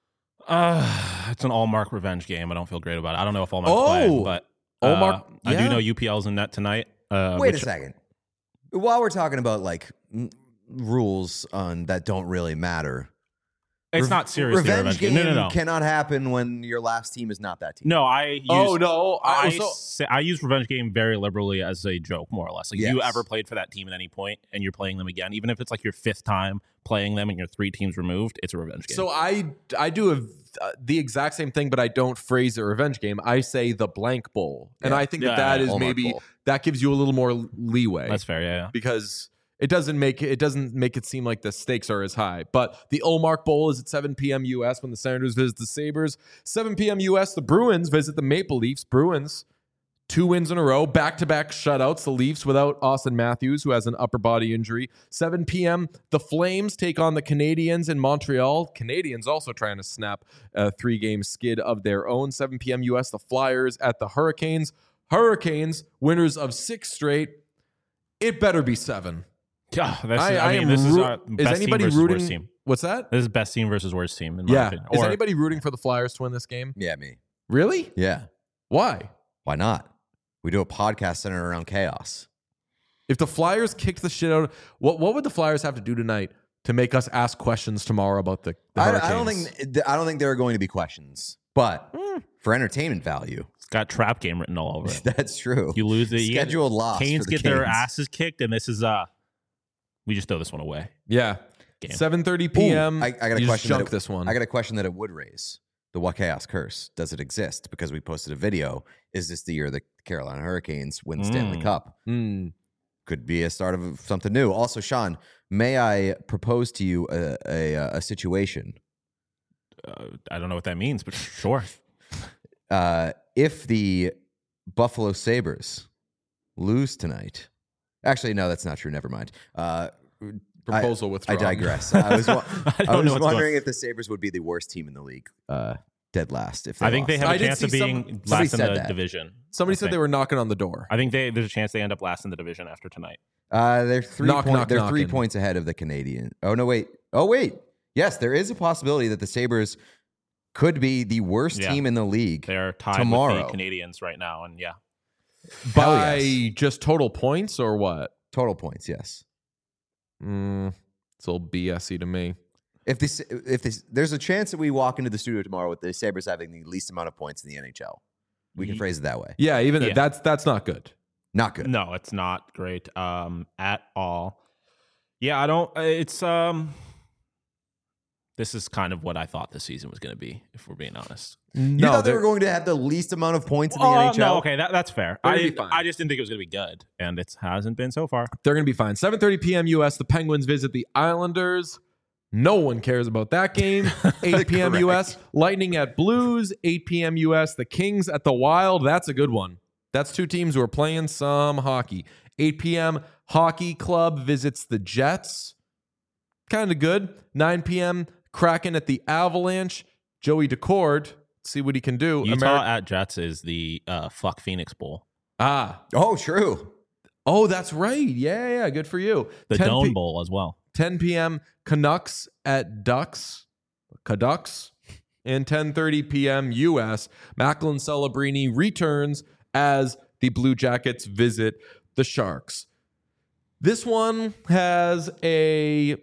It's an Allmark revenge game. I don't feel great about it. I don't know if Allmark's Oh! playing, but Allmark- I yeah. do know UPL's in net tonight. Wait a second. While we're talking about like rules on that don't really matter, It's not seriously a revenge revenge game. game No. cannot happen when your last team is not that team. No, I use, no. I use revenge game very liberally as a joke, more or less. Like, Yes. you ever played for that team at any point and you're playing them again, even if it's like your 5th time playing them and you're 3 teams removed, it's a revenge game. So I do the exact same thing, but I don't phrase it revenge game. I say the blank bowl, and Yeah. I think Yeah, that is Allmark maybe bowl. that gives you a little more leeway. that's fair. Yeah. because it doesn't make it seem like the stakes are as high. But the Allmark Bowl is at 7 p.m. U.S. when the Senators visit the Sabres. 7 p.m. U.S. the Bruins visit the Maple Leafs. Bruins 2 wins in a row, back-to-back shutouts. The Leafs without Austin Matthews, who has an upper body injury. 7 p.m., the Flames take on the Canadiens in Montreal. Canadiens also trying to snap a 3-game skid of their own. 7 p.m. U.S., the Flyers at the Hurricanes. Hurricanes, winners of 6 straight. It better be 7. Yeah, this is best anybody team versus rooting? worst team. What's that? This is best team versus worst team, in my opinion. Is anybody rooting for the Flyers to win this game? Yeah, me. Really? Yeah. Why? Why not? We do a podcast centered around chaos. If the Flyers kicked the shit out, what would the Flyers have to do tonight to make us ask questions tomorrow about the Hurricanes? I don't think there are going to be questions, but for entertainment value, It's got trap game written all over it. that's true. You lose it. Scheduled loss. Canes for the get their Canes. asses kicked, and this is we just throw this one away. Yeah. Game. 7:30 p.m. I got a you just question. junk this one. I got a question that it would raise. The What Chaos curse, does it exist? Because we posted a video. Is this the year the Carolina Hurricanes win the Stanley Cup? Could be a start of something new. Also, Sean, may I propose to you a situation? I don't know what that means, but sure. If the Buffalo Sabres lose tonight, actually, no, that's not true. Never mind. Proposal I withdrawn. digress. I was what's wondering if the Sabres would be the worst team in the league, dead last. If I think they lost. have I a did chance of see being somebody last in said the that. division. Somebody I said think. they were knocking on the door. I think there's a chance they end up last in the division after tonight. They're 3 Knock, knock, they're 3 knocking. points ahead of the Canadian. Oh no, wait. Oh wait. Yes, there is a possibility that the Sabres could be the worst Yeah. team in the league. They're tied Tomorrow. with the Canadians right now, and yeah, By yes. just total points or what? Total points, yes. It's a little BS-y to me. If there's a chance that we walk into the studio tomorrow with the Sabres having the least amount of points in the NHL. We can phrase it that way. Yeah, even Yeah. that's not good. Not good. no, it's not great at all. Yeah, I don't. It's This is kind of what I thought the season was going to be, if we're being honest. You thought they were going to have the least amount of points in the Oh, NHL? no, okay, that's fair. They're gonna be fine. I just didn't think it was going to be good, and it hasn't been so far. They're going to be fine. 7:30 p.m. U.S. The Penguins visit the Islanders. No one cares about that game. 8 p.m. Correct. U.S. Lightning at Blues. 8 p.m. U.S. The Kings at the Wild. That's a good one. That's 2 teams who are playing some hockey. 8 p.m. Hockey Club visits the Jets. Kind of good. 9 p.m. Kraken at the Avalanche. Joey Decord. See what he can do. Utah at Jets is the fuck Phoenix Bowl. Oh, true. Oh, that's right. Yeah. Good for you. The 10 Dome Bowl as well. 10 p.m. Canucks at Ducks. Canucks. And 10:30 p.m. U.S. Macklin Celebrini returns as the Blue Jackets visit the Sharks. This one has an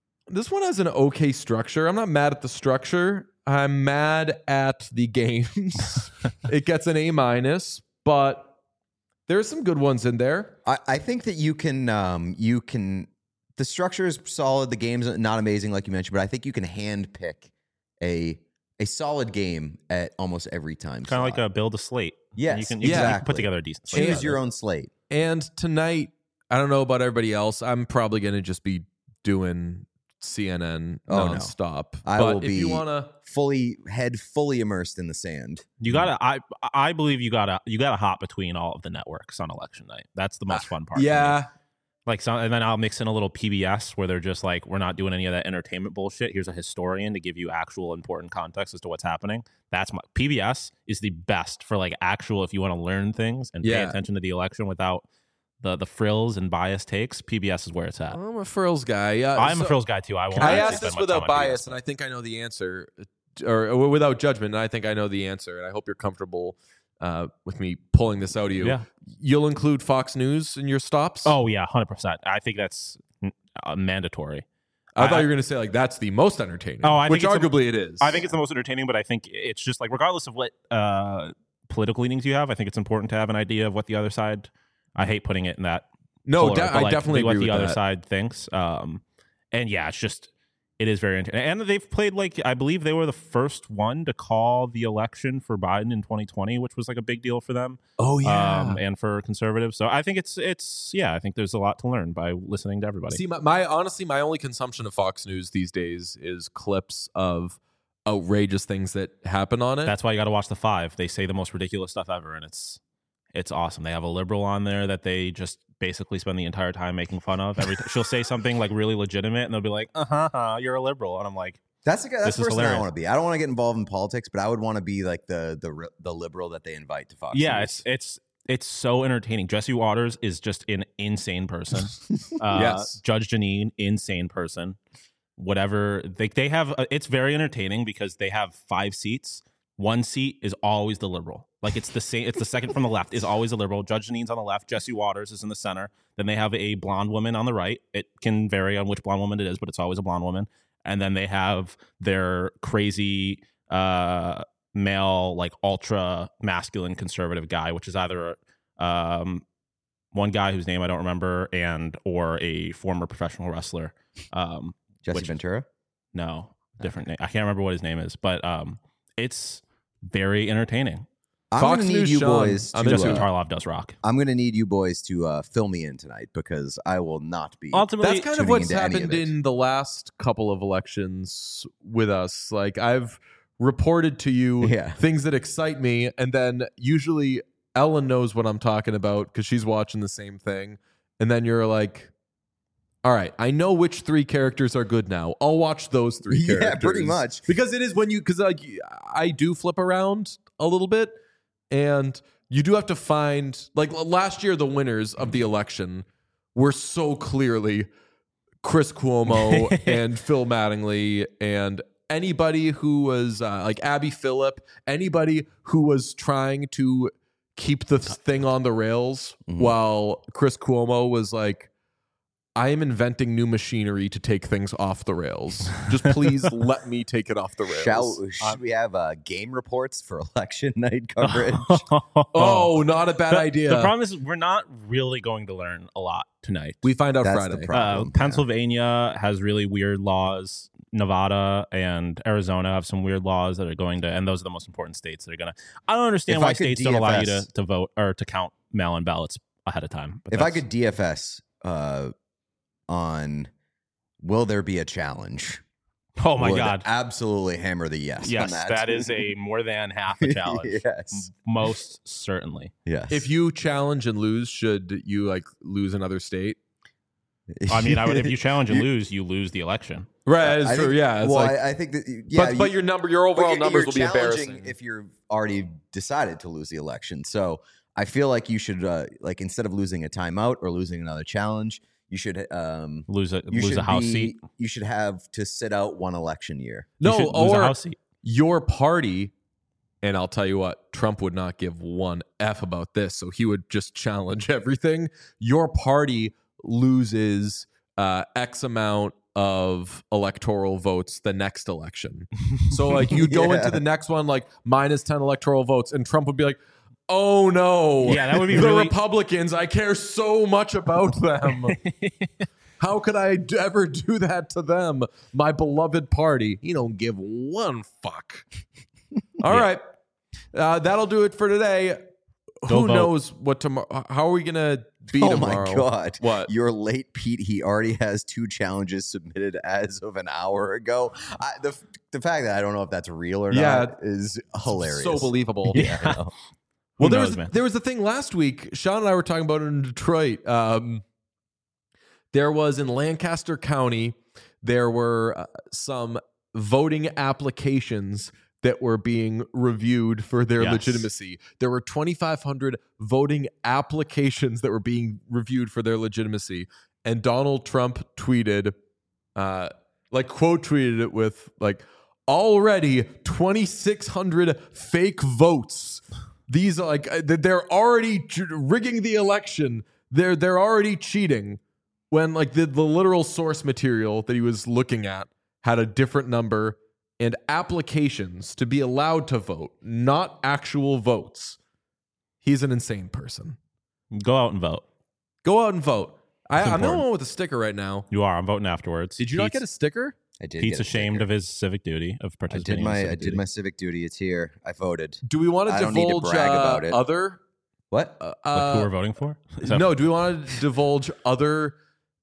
okay structure. I'm not mad at the structure. I'm mad at the games. It gets an A-, but there's some good ones in there. I think that you can the structure is solid. The game's not amazing, like you mentioned, but I think you can handpick a solid game at almost every time. Kind of like a build a slate. Yes, you can exactly. put together a decent slate. Choose your own slate. And tonight, I don't know about everybody else. I'm probably going to just be doing CNN nonstop. I but will if be you want to, fully immersed in the sand. You gotta. I believe you gotta hop between all of the networks on election night. That's the most fun part. for me. yeah, Like and then I'll mix in a little PBS where they're just like, we're not doing any of that entertainment bullshit. Here's a historian to give you actual important context as to what's happening. That's my PBS is the best for like actual if you want to learn things and pay Yeah. attention to the election without the frills and biased takes. PBS is where it's at. I'm a frills guy. I'm a frills guy too. I won't. I actually asked spend this much without time on PBS. bias, and I think I know the answer, or without judgment, and I think I know the answer, and I hope you're comfortable with me pulling this out of you. Yeah. You'll include Fox News in your stops? Oh yeah, 100%. I think that's mandatory. I thought you were going to say, like, that's the most entertaining. Oh, I think which it's arguably it is. I think it's the most entertaining, but I think it's just like regardless of what political leanings you have, I think it's important to have an idea of what the other side. I hate putting it in that. No, polar, but, I definitely what agree the with other that. side thinks. And yeah, it is very entertaining. And they've played I believe they were the first one to call the election for Biden in 2020, which was like a big deal for them. Oh, yeah. And for conservatives. So I think I think there's a lot to learn by listening to everybody. See, my honestly, my only consumption of Fox News these days is clips of outrageous things that happen on it. That's why you got to watch The Five. They say the most ridiculous stuff ever, and it's It's awesome. They have a liberal on there that they just basically spend the entire time making fun of. She'll say something like really legitimate, and they'll be like, you're a liberal. And I'm like, That's the This is person I hilarious. want to be. I don't want to get involved in politics, but I would want to be like the liberal that they invite to Fox yeah, News. it's so entertaining. Jesse Waters is just an insane person. Yes. Judge Janine, insane person. Whatever they have, it's very entertaining because they have 5 seats. One seat is always the liberal. Like it's the same. It's the second from the left is always a liberal. Judge Janine's on the left. Jesse Waters is in the center. Then they have a blonde woman on the right. It can vary on which blonde woman it is, but it's always a blonde woman. And then they have their crazy male, like ultra masculine conservative guy, which is either one guy whose name I don't remember or a former professional wrestler. Jesse Ventura? No, different name. I can't remember what his name is, but it's very entertaining. I'm Fox going to need News you Sean. boys I'm to Jesse into it. Tarlov does rock. I'm going to need you boys to fill me in tonight because I will not be. Ultimately, That's kind of tuning what's into any of happened it. in the last couple of elections with us. Like I've reported to you Yeah. things that excite me, and then usually Ellen knows what I'm talking about because she's watching the same thing. And then you're like, all right, I know which 3 characters are good now. I'll watch those 3 Yeah, characters. pretty much. Because it is when you, because like I do flip around a little bit, and you do have to find, like last year, the winners of the election were so clearly Chris Cuomo and Phil Mattingly, and anybody who was like Abby Phillip, anybody who was trying to keep the thing on the rails, while Chris Cuomo was like, I am inventing new machinery to take things off the rails. Just please let me take it off the rails. Should we have game reports for election night coverage? Oh, not a bad idea. The problem is we're not really going to learn a lot tonight. We find out That's Friday. the problem. Pennsylvania has really weird laws. Nevada and Arizona have some weird laws that are going to, and those are the most important states that are going to. I don't understand If why I could states don't allow you DFS to vote or to count mail-in ballots ahead of time. But If I that's- could DFS on will there be a challenge? oh my would God, absolutely hammer the yes. yes, on that is a more than half a challenge. Yes. Most certainly. Yes. If you challenge and lose, should you like lose another state? I mean, I would. If you challenge and lose, you lose the election. Right, it's I true. think- Yeah, it's well, like, I think that yeah, but your overall you're numbers will be challenging embarrassing. if you're already decided to lose the election. So I feel like you should like instead of losing a timeout or losing another challenge, you should Lose you a house seat. You should have to sit out one election year. You No, should lose a or house seat. your party, and I'll tell you what, Trump would not give one F about this, so he would just challenge everything. Your party loses X amount of electoral votes the next election. So like you go Yeah. into the next one like minus 10 electoral votes, and Trump would be like, oh no. Yeah, that would be the really- Republicans, I care so much about them. How could I ever do that to them? My beloved party. You don't give one fuck. All right. That'll do it for today. Go Who vote. knows what tomorrow? How are we going to be Oh tomorrow? my God. What? You're late, Pete. He already has 2 challenges submitted as of an hour ago. The fact that I don't know if that's real or Yeah. not is hilarious. So believable. Yeah. I know. Well, Who knows, man? there was a thing last week. Sean and I were talking about it in Detroit. There was in Lancaster County, there were some voting applications that were being reviewed for their Yes. legitimacy. There were 2,500 voting applications that were being reviewed for their legitimacy. And Donald Trump tweeted, quote tweeted it with like, already 2,600 fake votes. These are like they're already rigging the election. They're already cheating. When like the literal source material that he was looking at had a different number, and applications to be allowed to vote, not actual votes. He's an insane person. Go out and vote. Go out and vote. I'm the important. one with a sticker right now. You are. I'm voting afterwards. Did you not get a sticker? I did. Pete's get a ashamed sticker. of his civic duty of I participating. did in my civic I did duty. my civic duty. It's here. I voted. Do we want to I don't need to divulge brag about it. other? What? Like who we're voting for? Is that- No, do we want to divulge other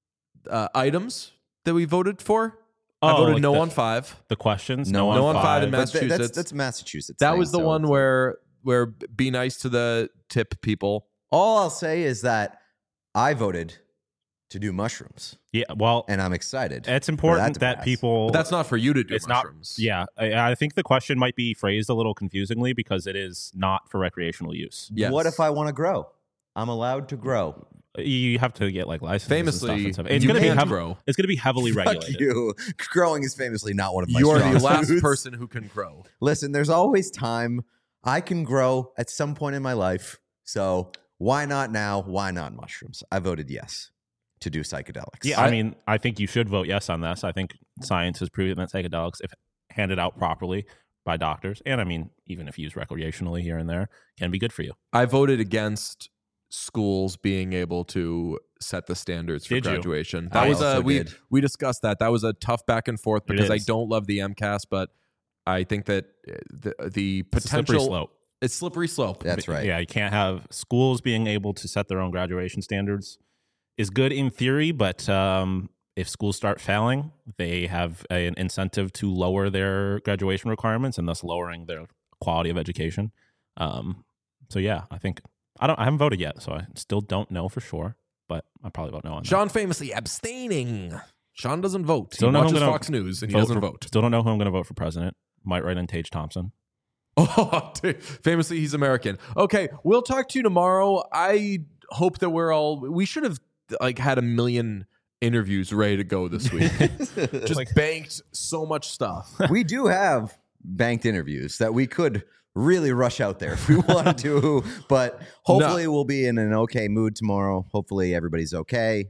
items that we voted for? I Oh, voted like no the- on 5. the questions. No on on five in But Massachusetts. that's Massachusetts. That thing, was the so one where where be nice to the tip people. All I'll say is that I voted to do mushrooms, Yeah, well, and I'm excited. it's for important to that pass. people. But that's not for you to do It's mushrooms. not. Yeah, I think the question might be phrased a little confusingly because it is not for recreational use. Yes. What if I want to grow? I'm allowed to grow. You have to get like licenses. Famously, and stuff. It's you going to be can't grow. It's going to be heavily Fuck regulated. you. Growing is famously not one of my You are strong the last suits. person who can grow. Listen, there's always time. I can grow at some point in my life. So why not now? Why not mushrooms? I voted yes to do psychedelics. Yeah, I mean, I think you should vote yes on this. I think science has proven that psychedelics, if handed out properly by doctors, and I mean, even if used recreationally here and there, can be good for you. I voted against schools being able to set the standards for Did you? graduation. I That was also we did. we discussed that. That was a tough back and forth because I is. don't love the MCAS, but I think that the It's a slippery potential slope. it's slippery slope. That's right. Yeah, you can't have schools being able to set their own graduation standards is good in theory, but if schools start failing, they have an incentive to lower their graduation requirements and thus lowering their quality of education. So yeah, I think I haven't voted yet, so I still don't know for sure, but I'll probably vote no on that. Sean famously abstaining. Sean doesn't vote. Still He know who I'm watches gonna Fox News and he doesn't vote. Still don't know who I'm going to vote for president. Might write in Tage Thompson. Oh, famously, he's American. Okay, we'll talk to you tomorrow. I hope that we should have like had 1 million interviews ready to go this week. Just banked so much stuff. We do have banked interviews that we could really rush out there if we wanted to, but hopefully we'll be in an okay mood tomorrow. Hopefully everybody's okay.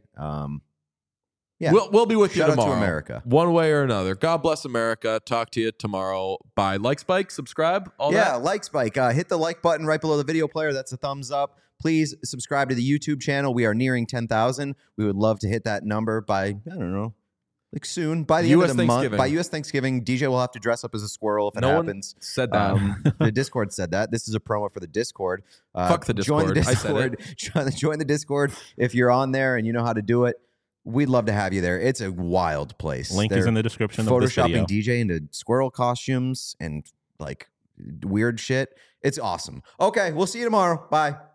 Yeah. We'll be with Shout you out to tomorrow. America. One way or another. God bless America. Talk to you tomorrow. Bye. Like Spike, subscribe, all Yeah, that. like Spike. Hit the like button right below the video player. That's a thumbs up. Please subscribe to the YouTube channel. We are nearing 10,000. We would love to hit that number by, I don't know, like soon. By the end of the month. Thanksgiving. By US Thanksgiving, DJ will have to dress up as a squirrel if it No one happens. said that. The Discord said that. This is a promo for the Discord. Fuck the Join the Discord. I said Discord. Join the Discord if you're on there and you know how to do it. We'd love to have you there. It's a wild place. Link is They're in the description of this video. Photoshopping DJ into squirrel costumes and like weird shit. It's awesome. Okay, we'll see you tomorrow. Bye.